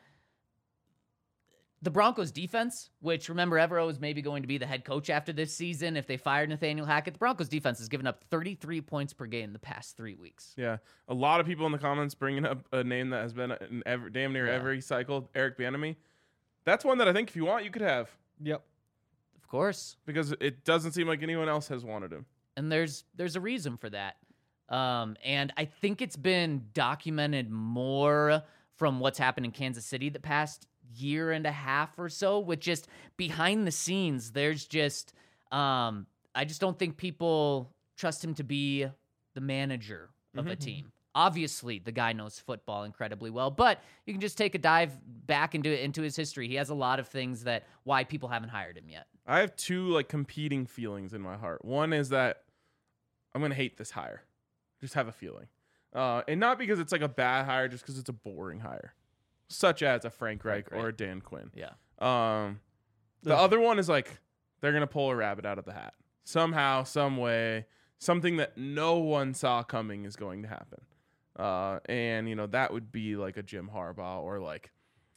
the Broncos defense, which remember Evero is maybe going to be the head coach after this season if they fired Nathaniel Hackett, the Broncos defense has given up thirty-three points per game the past three weeks. Yeah, a lot of people in the comments bringing up a name that has been in every, damn near Yeah. every cycle, Eric Bieniemy. That's one that I think if you want, you could have, Yep. Of course. because it doesn't seem like anyone else has wanted him. And there's there's a reason for that. Um, and I think it's been documented more from what's happened in Kansas City the past year and a half or so, with just behind the scenes. There's just um, I just don't think people trust him to be the manager of a team. Obviously, the guy knows football incredibly well, but you can just take a dive back into into his history. He has a lot of things that why people haven't hired him yet. I have two like competing feelings in my heart. One is that I'm gonna hate this hire. Just have a feeling, uh, and not because it's like a bad hire, just because it's a boring hire, such as a Frank Reich Frank or a Reich. Dan Quinn. Yeah. Um, the Ugh. other one is like they're gonna pull a rabbit out of the hat somehow, some way. Something that no one saw coming is going to happen, uh, and you know that would be like a Jim Harbaugh or like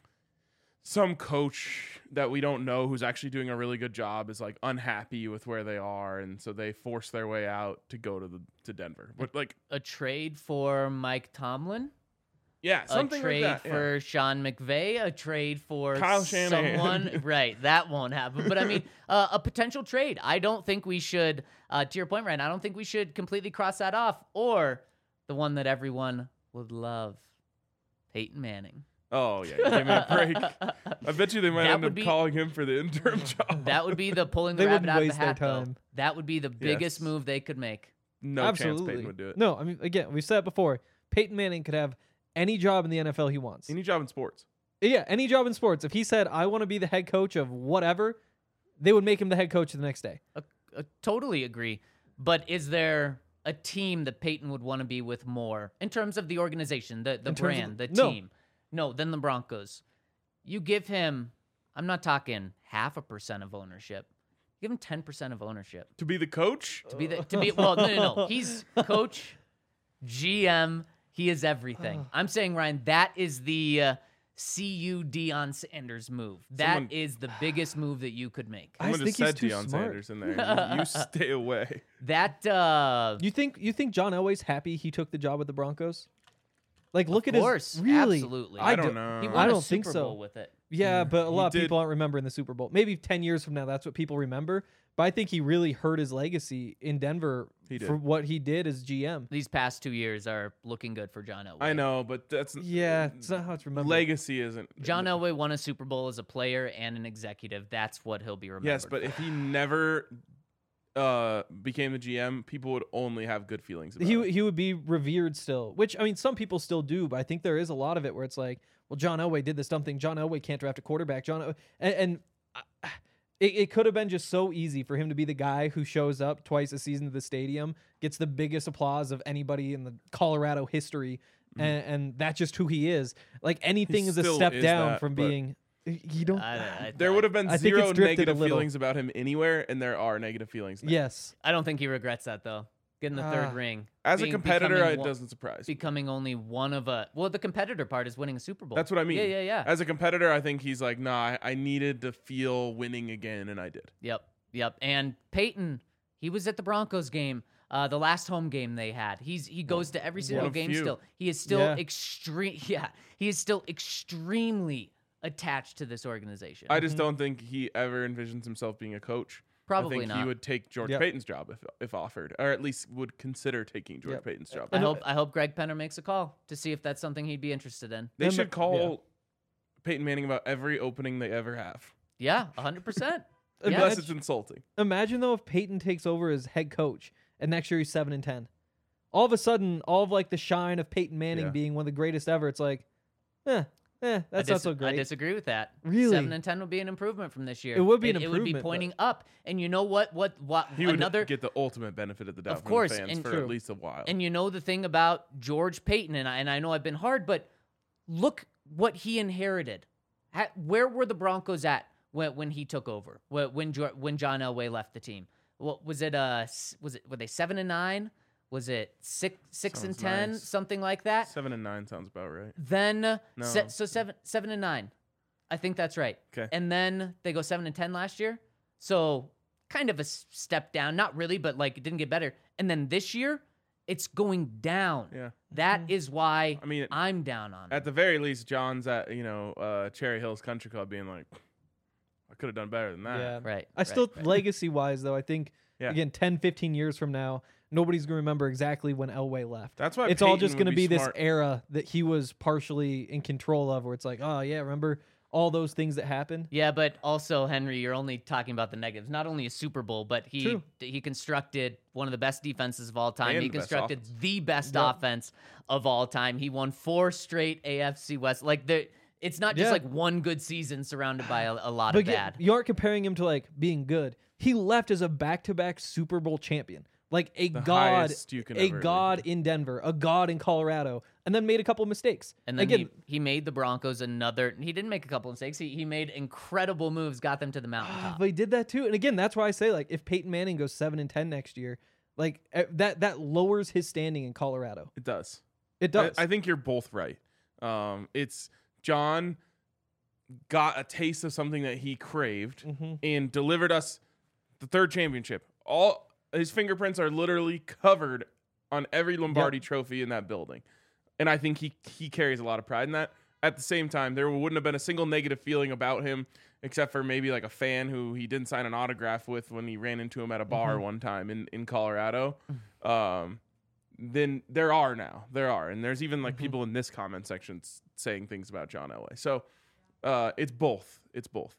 some coach that we don't know who's actually doing a really good job is like unhappy with where they are, and so they force their way out to go to the to Denver. But like, A trade for Mike Tomlin. yeah, something a trade like that. yeah. for Sean McVay, a trade for Kyle Shanahan. someone. Right, that won't happen. But I mean, uh, a potential trade. I don't think we should, uh, to your point, Ryan, I don't think we should completely cross that off. Or the one that everyone would love, Peyton Manning. Oh yeah, give me a break. I bet you they might That end would up be- calling him for the interim job. That would be the pulling the They rabbit wouldn't out of the waste their hat, though. time. That would be the biggest Yes. move they could make. no Absolutely. chance Peyton would do it. No, I mean, again, we said it before. Peyton Manning could have any job in the N F L he wants. Any job in sports. Yeah, any job in sports. If he said, I want to be the head coach of whatever, they would make him the head coach the next day. I, I totally agree. But is there a team that Peyton would want to be with more in terms of the organization, the, the In terms of- brand, the no. team? No, then the Broncos. You give him, I'm not talking half a percent of ownership. Give him ten percent of ownership. To be the coach? To be the, to be, well, no, no, no. He's coach, G M, he is everything. I'm saying, Ryan, that is the uh, C U Deion Sanders move. That is Someone- the biggest move that you could make. I Someone think just he's said too Deion smart. Sanders in there. You, you stay away. That, uh, You think you think John Elway's happy he took the job with the Broncos? Like, look of at course, his really. absolutely. I do- don't know. he Uh, won I a don't think Super so. Bowl with it. Yeah, but a He lot of did- people aren't remembering the Super Bowl. Maybe ten years from now, that's what people remember. But I think he really hurt his legacy in Denver He did. for what he did as G M. These past two years are looking good for John Elway. I know, but that's Yeah, it's not how it's remembered. legacy isn't. John Elway won a Super Bowl as a player and an executive. That's what he'll be remembered. Yes, but for. if he never uh, became the G M, people would only have good feelings about he him. he would be revered still, which I mean, some people still do, but I think there is a lot of it where it's like, well, John Elway did this dumb thing. John Elway can't draft a quarterback. John, El- and, and uh, it, it could have been just so easy for him to be the guy who shows up twice a season to the stadium, gets the biggest applause of anybody in the Colorado history, and, and that's just who he is. Like anything He is a still step is down that, from but- being. You don't. I, I, There I- would have been I think zero it's drifted a negative little. feelings about him anywhere, and there are negative feelings now. Yes. I don't think he regrets that though. Getting the third Ah. ring. As a being- competitor, becoming it one- doesn't surprise me. Becoming only one of a. Well, the competitor part is winning a Super Bowl. That's what I mean. Yeah, yeah, yeah. As a competitor, I think he's like, nah, I, I needed to feel winning again, and I did. Yep, yep. And Peyton, he was at the Broncos game, uh, the last home game they had. He's he goes to every single of game few. still. He is still Yeah. extreme. Yeah, he is still extremely attached to this organization. I just don't think he ever envisions himself being a coach. Probably I think not. he would take George Yep. Payton's job if if offered, or at least would consider taking George Yep. Payton's job. I hope I hope Greg Penner makes a call to see if that's something he'd be interested in. They And should the- call Peyton Manning about every opening they ever have, Yeah, a hundred percent. unless Yeah, it's insulting. Imagine though if Peyton takes over as head coach and next year he's seven and ten. All of a sudden, all of like the shine of Peyton Manning Yeah. being one of the greatest ever, it's like, eh, eh, I that's dis- not so great. I disagree with that. Really? seven and ten would be an improvement from this year. It would be an It would be improvement, but- pointing up. And you know what? What? What? He would another. get the ultimate benefit of the doubt Of from course, the fans and for true. at least a while. And you know the thing about George Payton, and I, and I know I've been hard, but look what he inherited. Ha- Where were the Broncos at when when he took over. When when, Jo- when John Elway left the team. What was it? Uh, s- was it were they seven and nine? Was it six six and Sounds ten? nice. Something like that. Seven and nine sounds about right. Then uh, No. se- so seven seven and nine. I think that's right. 'Kay. And then they go seven and ten last year. So kind of a s- step down. Not really, but like it didn't get better. And then this year, it's going down. Yeah. That is why I mean, I'm down on it. at the very least, John's at you know uh, Cherry Hills Country Club being like, I could have done better than that. Yeah. Right. I right, still, right. legacy wise, though, I think, Yeah. again, ten, fifteen years from now, nobody's going to remember exactly when Elway left. That's why It's all Peyton just would going to be, this smart. era that he was partially in control of, where it's like, oh, yeah, remember all those things that happened? Yeah, but also Henry, you're only talking about the negatives. Not only a Super Bowl, but he True. he constructed one of the best defenses of all time. And he the best constructed offense. the best Yep. offense of all time. He won four straight A F C West. Like the, it's not just Yeah. like one good season surrounded by a, a lot But of get- bad. you aren't comparing him to, like, being good. He left as a back-to-back Super Bowl champion. Like a The god, highest you can a ever god leave. in Denver, a god in Colorado, and then made a couple mistakes. And then Again, he, he made the Broncos another. He didn't make a couple mistakes. He he made incredible moves, got them to the mountaintop. but he did that too. And again, that's why I say, like, if Peyton Manning goes seven and ten next year, like eh, that that lowers his standing in Colorado. It does. It does. I, I think you're both right. Um, it's John got a taste of something that he craved Mhm. and delivered us the third championship. All his fingerprints are literally covered on every Lombardi trophy in that building, and I think he he carries a lot of pride in that. At the same time, there wouldn't have been a single negative feeling about him, except for maybe like a fan who he didn't sign an autograph with when he ran into him at a bar one time in in Colorado. Um, then there are now there are, and there's even like people in this comment section s- saying things about John Elway. So uh, it's both. It's both.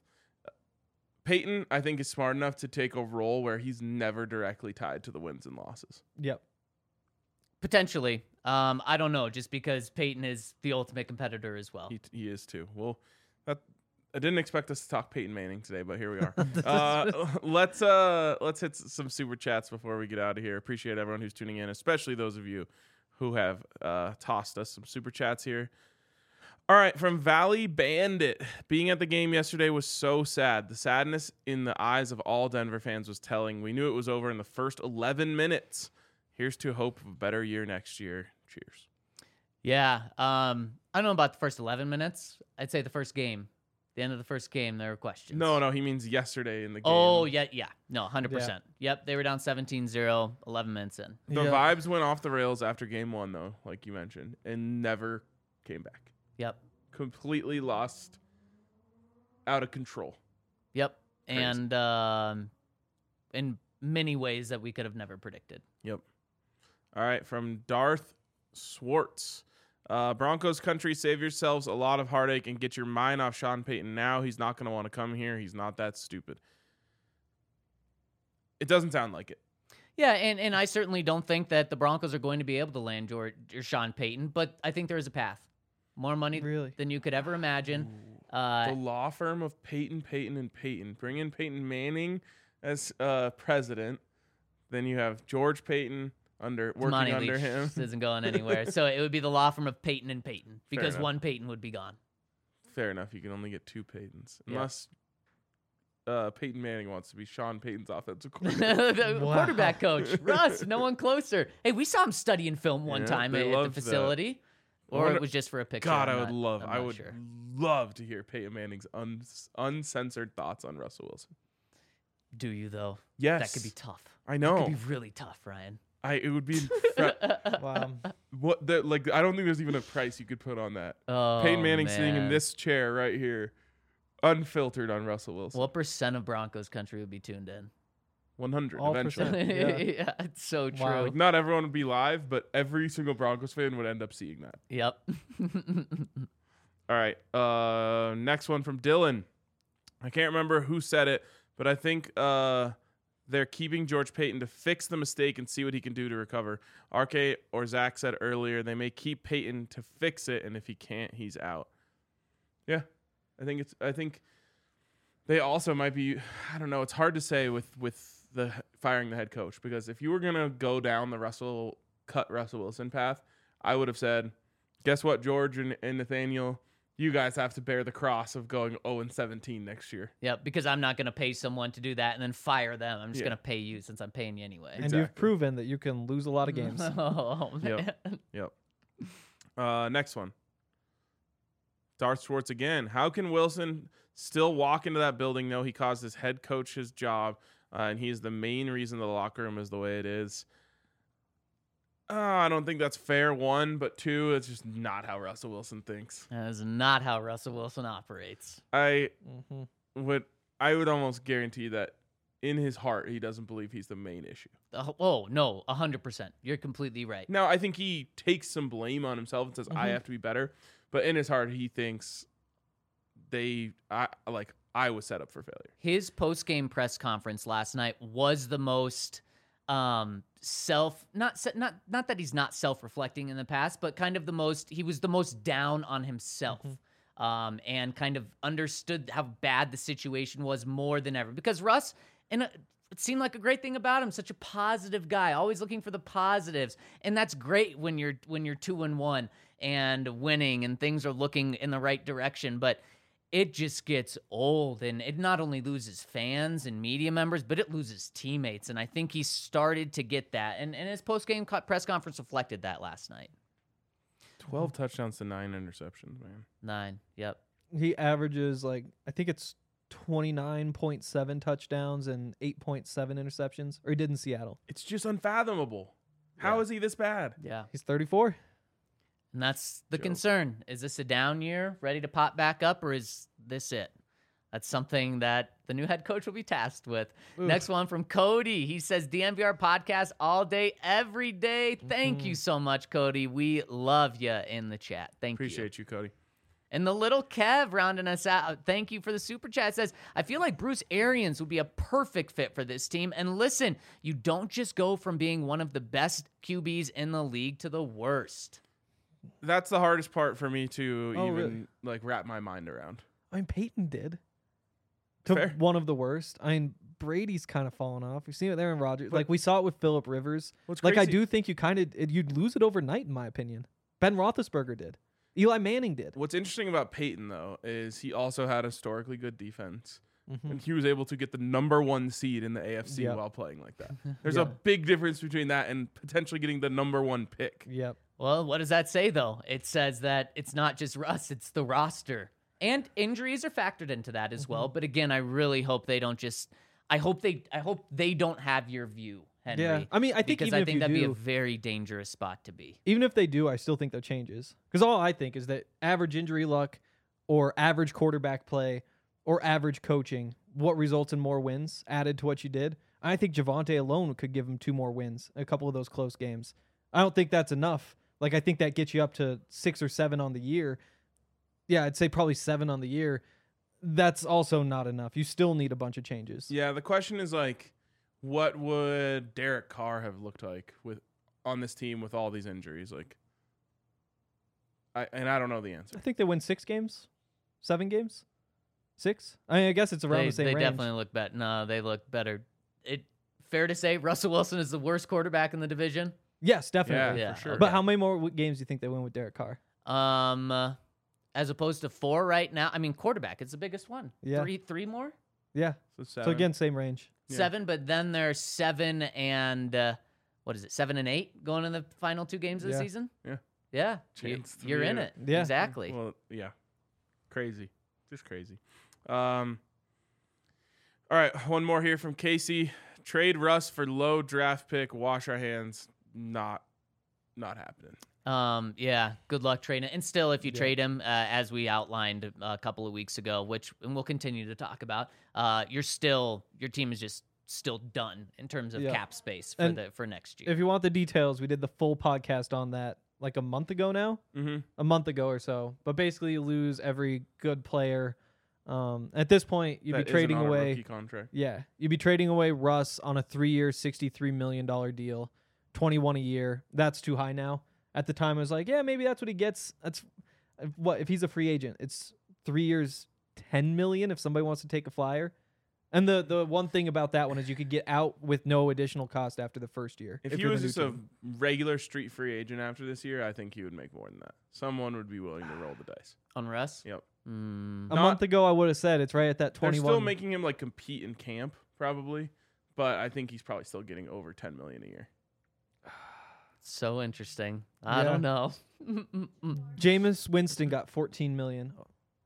Peyton, I think, is smart enough to take a role where he's never directly tied to the wins and losses. Yep. Potentially. Um, I don't know, just because Peyton is the ultimate competitor as well. He he is too. Well, that I didn't expect us to talk Peyton Manning today, but here we are. uh, let's uh let's hit s- some super chats before we get out of here. Appreciate everyone who's tuning in, especially those of you who have uh, tossed us some super chats here. All right, from Valley Bandit. Being at the game yesterday was so sad. The sadness in the eyes of all Denver fans was telling. We knew it was over in the first eleven minutes. Here's to hope of a better year next year. Cheers. Yeah. Um, I don't know about the first eleven minutes. I'd say the first game. The end of the first game, there were questions. No, no, he means yesterday in the game. Oh, yeah, yeah. No, one hundred percent. Yep, they were down seventeen zero, eleven minutes in. The Yeah. vibes went off the rails after game one, though, like you mentioned, and never came back. Yep. Completely lost, out of control. Yep. Crazy. And um, in many ways that we could have never predicted. Yep. All right, from Darth Swartz. Uh, Broncos country, save yourselves a lot of heartache and get your mind off Sean Payton now. He's not going to want to come here. He's not that stupid. It doesn't sound like it. Yeah, and, and I certainly don't think that the Broncos are going to be able to land George or Sean Payton, but I think there is a path. More money Really? than you could ever imagine. the Uh, law firm of Peyton, Peyton, and Peyton. Bring in Peyton Manning as uh, president. Then you have George Payton under working Money under Leach him. isn't going anywhere. So it would be the law firm of Peyton and Peyton because enough. one Peyton would be gone. Fair enough. You can only get two Peytons. Yeah. Unless uh, Peyton Manning wants to be Sean Payton's offensive coordinator. the Wow. quarterback coach, Russ, no one closer. Hey, we saw him studying film one Yeah, time they at, at the loved that. facility. I Or wonder- it was just for a picture. God, I'm I would not- love. I'm I not would sure. love to hear Peyton Manning's uns- uncensored thoughts on Russell Wilson. Do you, though? Yes, That could be tough. I That know. could be really tough, Ryan. I it would be incre- Wow. what the like. I don't think there's even a price you could put on that. Oh, Peyton Manning sitting in man. this chair right here, unfiltered on Russell Wilson. What percent of Broncos country would be tuned in? one hundred All eventually. percent. yeah. Yeah. It's so true. Wow. Like not everyone would be live, but every single Broncos fan would end up seeing that. Yep. All right. Uh, next one from Dylan. I can't remember who said it, but I think uh, they're keeping George Payton to fix the mistake and see what he can do to recover. R K or Zach said earlier they may keep Payton to fix it, and if he can't, he's out. Yeah, I think it's. I think they also might be. I don't know. It's hard to say with with the firing the head coach because if you were gonna go down the Russell cut Russell Wilson path, I would have said, guess what, George and, and Nathaniel. you guys have to bear the cross of going oh and seventeen next year. Yep, because I'm not going to pay someone to do that and then fire them. I'm just Yeah. going to pay you since I'm paying you anyway. And Exactly. you've proven that you can lose a lot of games. Oh, man. Yep. Yep. Uh, next one. Darth Schwartz again. How can Wilson still walk into that building, know he caused his head coach his job, uh, and he's the main reason the locker room is the way it is? Uh, I don't think that's fair, one, but two, it's just not how Russell Wilson thinks. That is not how Russell Wilson operates. I hmm would I would almost guarantee that in his heart he doesn't believe he's the main issue. Uh, oh, no, one hundred percent. You're completely right. Now, I think he takes some blame on himself and says, I Mhm. have to be better. But in his heart, he thinks they, I like, I was set up for failure. His post-game press conference last night was the most um self not se- not not that he's not self-reflecting in the past, but kind of the most he was the most down on himself. Um and kind of understood how bad the situation was more than ever, because Russ, and it seemed like a great thing about him, such a positive guy, always looking for the positives, and that's great when you're when you're two and one and winning and things are looking in the right direction. But it just gets old, and it not only loses fans and media members, but it loses teammates. And I think he started to get that. And, and his post-game co- press conference reflected that last night. twelve touchdowns to nine interceptions, man. Nine. Yep. He averages like I think it's twenty-nine point seven touchdowns and eight point seven interceptions, or he did in Seattle. It's just unfathomable. How Yeah. is he this bad? Yeah. He's thirty-four. And that's the Joke. concern. Is this a down year, ready to pop back up, or is this it? That's something that the new head coach will be tasked with. Oof. Next one from Cody. He says, D M V R podcast all day, every day. Thank you so much, Cody. We love you in the chat. Thank you. Appreciate you, Cody. And the little Kev rounding us out. Thank you for the super chat. Says, I feel like Bruce Arians would be a perfect fit for this team. And listen, you don't just go from being one of the best Q Bs in the league to the worst. That's the hardest part for me to Oh, even really? like wrap my mind around. I mean, Peyton did. To Fair. one of the worst. I mean, Brady's kind of fallen off. We've seen it there in Rodgers. But- Like we saw it with Phillip Rivers. What's Like I crazy- do think you kind of you'd lose it overnight, in my opinion. Ben Roethlisberger did. Eli Manning did. What's interesting about Peyton, though, is he also had historically good defense. Mhm. And he was able to get the number one seed in the A F C Yep. while playing like that. There's Yeah. a big difference between that and potentially getting the number one pick. Yep. Well, what does that say, though? It says that it's not just Russ, it's the roster. And injuries are factored into that as well. But again, I really hope they don't just I hope they I hope they don't have your view, Henry. Yeah. I mean, I think because even I if think you that'd be a do- very dangerous spot to be. Even if they do, I still think there changes. Because all I think is that average injury luck or average quarterback play or average coaching, what results in more wins added to what you did. I think Javonte alone could give him two more wins, a couple of those close games. I don't think that's enough. Like, I think that gets you up to six or seven on the year. Yeah, I'd say probably seven on the year. That's also not enough. You still need a bunch of changes. Yeah, the question is like, what would Derek Carr have looked like with on this team with all these injuries? Like, I and I don't know the answer. I think they win six games, seven games, six. I mean, I guess it's around They, the same they range. definitely look better. No, they look better. It fair to say Russell Wilson is the worst quarterback in the division. Yes, definitely. Yeah, Yeah, for sure. But how many more w- games do you think they win with Derek Carr? Um, uh, as opposed to four right now. I mean, quarterback is the biggest one. Yeah. Three, three more, Yeah. So, So seven. again, same range. Yeah. seven. But then there's seven and uh, what is it? Seven and eight going in the final two games of the Yeah. season. Yeah. Yeah. Chance to You, are be in in it. it. Yeah. Exactly. Well, yeah, crazy, just crazy. Um, all right, one more here from Casey. Trade Russ for low draft pick. Wash our hands. Not, not happening. Um, yeah, good luck trading. And still, if you Yeah. trade him, uh, as we outlined a couple of weeks ago, which and we'll continue to talk about, uh, you're still your team is just still done in terms of Yeah. cap space for And the for next year. If you want the details, we did the full podcast on that like a month ago now, Mm-hmm. a month ago or so. But basically, you lose every good player. Um, at this point, you'd be trading away. rookie contract. Yeah, you'd be trading away Russ on a three-year, sixty-three million dollar deal, twenty-one a year. That's too high now. At the time, I was like, yeah, maybe that's what he gets. That's uh, what if he's a free agent? It's three years, ten million. If somebody wants to take a flyer, And the the one thing about that one is you could get out with no additional cost after the first year. If, he you're was the new just a team. regular street free agent after this year, I think he would make more than that. Someone would be willing to roll the dice. On Russ? Yep. Mm, a not- month ago, I would have said it's right at that They're twenty-one. still making him like compete in camp, probably, but I think he's probably still getting over ten million a year. so interesting. I Yeah. don't know. Jameis Winston got fourteen million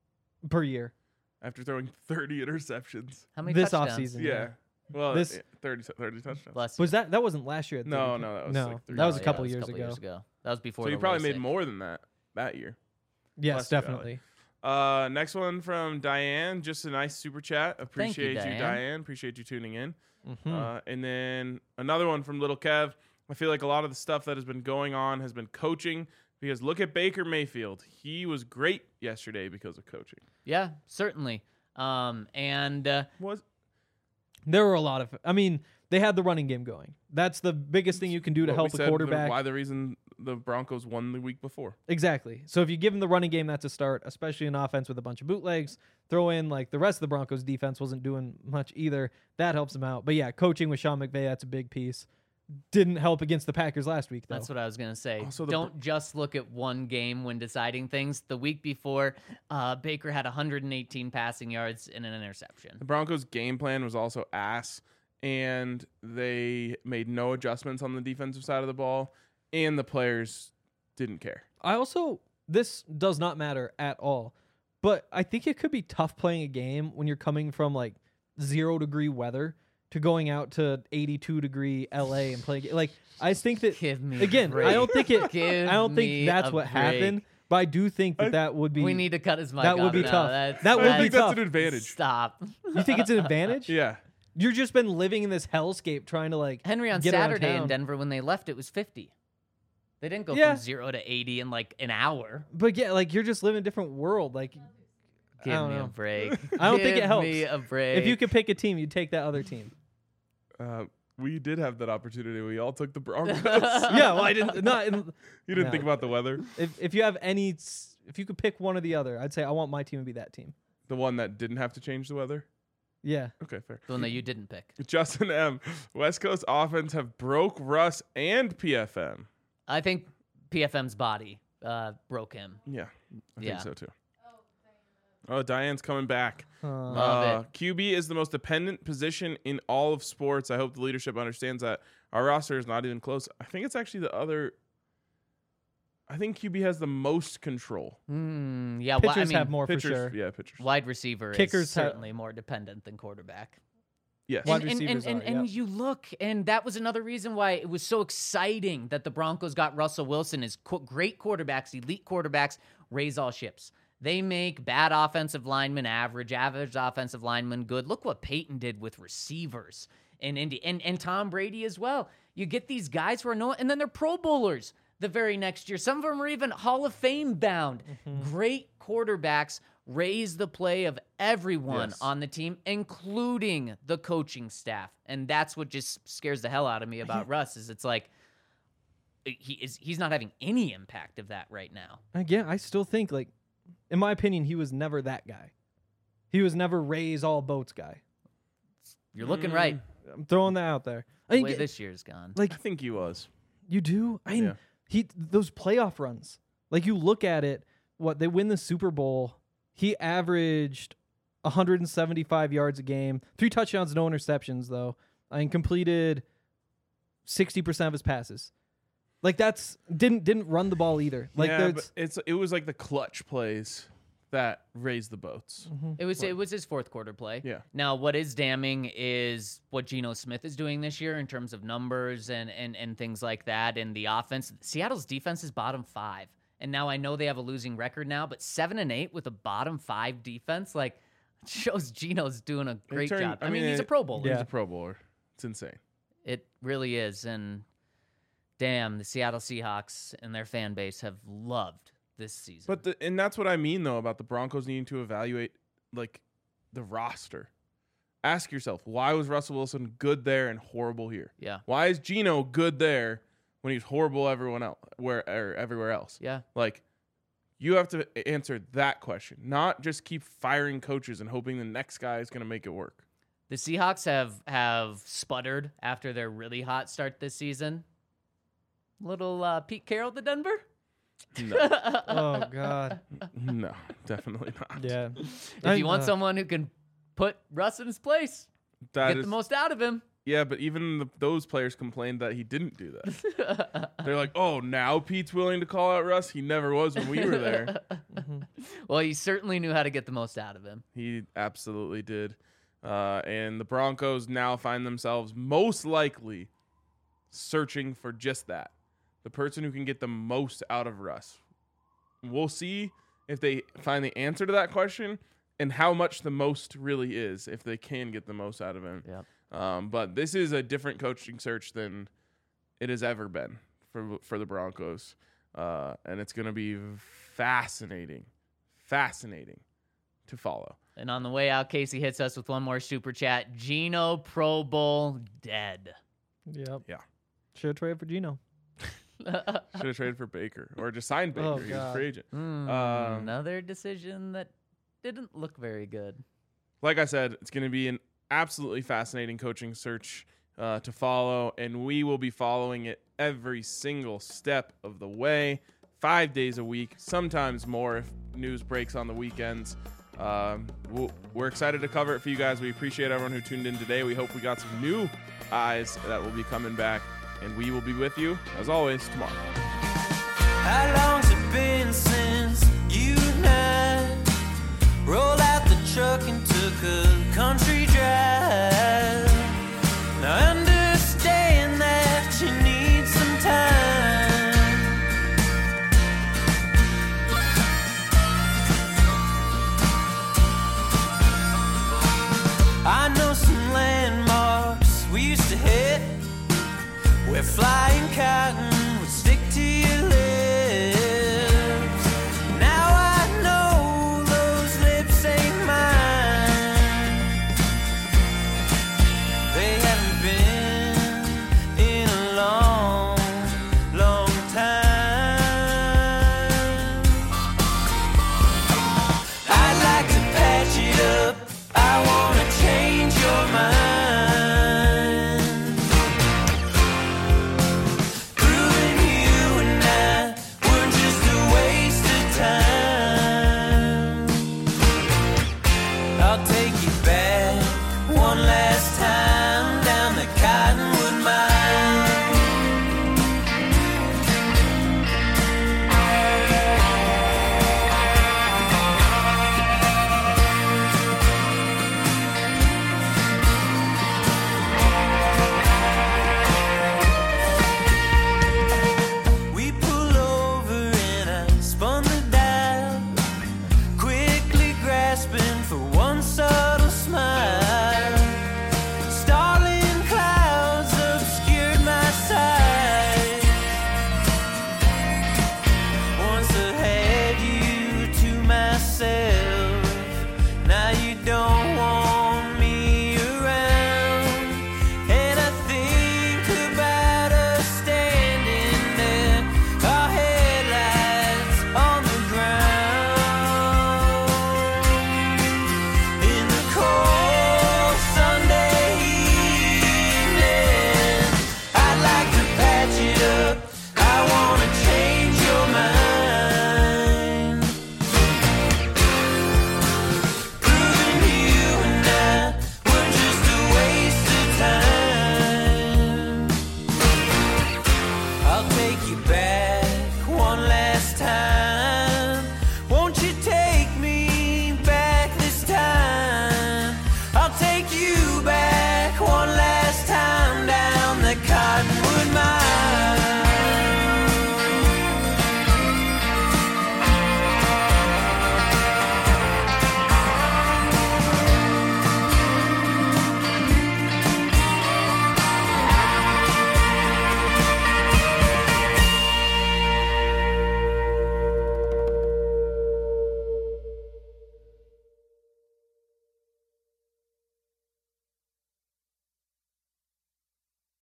per year After throwing thirty interceptions. How many this touchdowns? offseason. Yeah. Well, This- yeah, thirty, thirty touchdowns. Bless you. Was that that wasn't last year? at No, thirty? no, that was no. like three that was Oh, a yeah, couple that was years couple ago. years ago. That was before So he the probably made LASIK. more than that that year. Yes, Bless you, Valley. definitely. Uh, next one from Diane. Just a nice super chat. Appreciate you, Diane. Diane. Appreciate you tuning in. Mhm. Uh, and then another one from Little Kev. I feel like a lot of the stuff that has been going on has been coaching because look at Baker Mayfield. He was great yesterday because of coaching. Yeah, certainly. Um, and uh, Was There were a lot of. I mean, they had the running game going. That's the biggest thing you can do to what we help a said the- quarterback. why the reason the Broncos won the week before. Exactly. So if you give them the running game, that's a start, especially an offense with a bunch of bootlegs. Throw in like the rest of the Broncos defense wasn't doing much either. That helps them out. But yeah, coaching with Sean McVay, that's a big piece. Didn't help against the Packers last week though. that's what I was going to say. Also the Don't just look at one game when deciding things. The week before, uh, Baker had one hundred eighteen passing yards and an interception. The Broncos' game plan was also ass, and they made no adjustments on the defensive side of the ball, and the players didn't care. I also this does not matter at all. But I think it could be tough playing a game when you're coming from like zero degree weather to going out to eighty-two degree L A and playing. Like I just think that Give me again, a break. I don't think it. Give I don't me think that's a what break. happened. But I do think that that would be. We need to cut his mic that would off be now. tough. That's, That would I be think that's tough. an advantage. Stop. You think it's an advantage? Yeah. You're just been living in this hellscape trying to like Henry, on get around Saturday in town. Denver, when they left, it was fifty. They didn't go Yeah. from zero to eighty in like an hour. But yeah, like you're just living in a different world. Like Give don't me a know. break. I don't think it Give helps. me a break. if you could pick a team, you'd take that other team. Uh, we did have that opportunity. We all took the Broncos. Yeah, well, I didn't. Not in, You didn't No. think about the weather. if if you have any, s- if you could pick one or the other, I'd say I want my team to be that team. The one that didn't have to change the weather. Yeah. Okay, fair. the one that you didn't pick. Justin M. West Coast offense have broke Russ and P F M. I think P F M's body uh, broke him. Yeah, I Yeah. think so too. Oh, Diane's coming back. Uh, Love Uh, it. Q B is the most dependent position in all of sports. I hope the leadership understands that. Our roster is not even close. I think it's actually the other. I think Q B has the most control. Hmm, yeah, well, I pitchers mean, have more Pitchers, for sure. yeah, pitchers. wide receiver Kickers is ha- certainly more dependent than quarterback. Yes. Wide and, and, and, receivers and, are, and yep. you look, and that was another reason why it was so exciting that the Broncos got Russell Wilson as qu- great quarterbacks, elite quarterbacks, raise all ships. They make bad offensive linemen average, average offensive linemen good. Look what Peyton did with receivers in Indy, and, and Tom Brady as well. You get these guys who are no, and then they're Pro Bowlers the very next year. Some of them are even Hall of Fame bound. Mm-hmm. Great quarterbacks raise the play of everyone Yes. on the team, including the coaching staff. And that's what just scares the hell out of me about Russ is it's like he is he's not having any impact of that right now. Again, I still think like, in my opinion, he was never that guy. He was never raise all boats guy. You're looking right. I'm throwing that out there. I The think way it- this year's gone. like I think he was. you do. I mean, Yeah. he those playoff runs. Like you look at it, what they win the Super Bowl. He averaged one hundred seventy-five yards a game, three touchdowns, no interceptions though, and completed sixty percent of his passes. Like that's didn't didn't run the ball either. Like yeah, there's but it's it was like the clutch plays that raised the boats. It was it was his fourth quarter play. Yeah. Now, what is damning is what Geno Smith is doing this year in terms of numbers and and and things like that. And the offense, Seattle's defense is bottom five. And now I know they have a losing record now, but seven and eight with a bottom five defense, like shows Geno's doing a great turned- job. I, I mean, mean, he's a it- Pro Bowler. He's Yeah. a Pro Bowler. It's insane. It really is. And damn, the Seattle Seahawks and their fan base have loved this season. But the, and that's what I mean though about the Broncos needing to evaluate like the roster. Ask yourself, why was Russell Wilson good there and horrible here? yeah, Why is Geno good there when he's horrible everyone else where or everywhere else? yeah. Like you have to answer that question, not just keep firing coaches and hoping the next guy is going to make it work. The Seahawks have have sputtered after their really hot start this season. Little uh, Pete Carroll to Denver? No, Oh God. no, definitely not. Yeah. If you want someone who can put Russ in his place, That get is, the most out of him. yeah, but even the, those players complained that he didn't do that. They're like, oh, now Pete's willing to call out Russ. He never was when we were there. Well, he certainly knew how to get the most out of him. He absolutely did. Uh, and the Broncos now find themselves most likely searching for just that. The person who can get the most out of Russ. We'll see if they find the answer to that question and how much the most really is, if they can get the most out of him. Yep. Um, but this is a different coaching search than it has ever been for for the Broncos. Uh, and it's going to be fascinating, fascinating to follow. And on the way out, Casey hits us with one more super chat. Geno Pro Bowl dead. Yep. Yeah. Should have traded for Geno. Should have traded for Baker or just signed Baker. Oh, he was a God. free agent. Hmm, Um, another decision that didn't look very good. Like I said, it's going to be an absolutely fascinating coaching search uh, to follow, and we will be following it every single step of the way, five days a week, sometimes more if news breaks on the weekends. Um, we'll, we're excited to cover it for you guys. We appreciate everyone who tuned in today. We hope we got some new eyes that will be coming back, and we will be with you, as always, tomorrow. How long's it been since you and I rolled out the truck and took a country drive? Now I understand that you need some time. I know some landmarks we used to hit where flying cotton would stick to your lips. Now I know those lips ain't mine. They haven't been in a long, long time. I'd like to patch it up. I wanna change your mind. Proving you and I weren't just a waste of time. I'll take you back one last time down the Cottonwood Mine. We pull over and I spun the dial, quickly grasping for one subtle smile. Starling clouds obscured my sight. Once I had you to myself, now you don't want me around. And I think about us standing there, our headlights on the ground. In the cold Sunday evening, I'd like to patch it up. I wanna change your mind. Proving you and I were just a waste of time. I'll take you back one last time.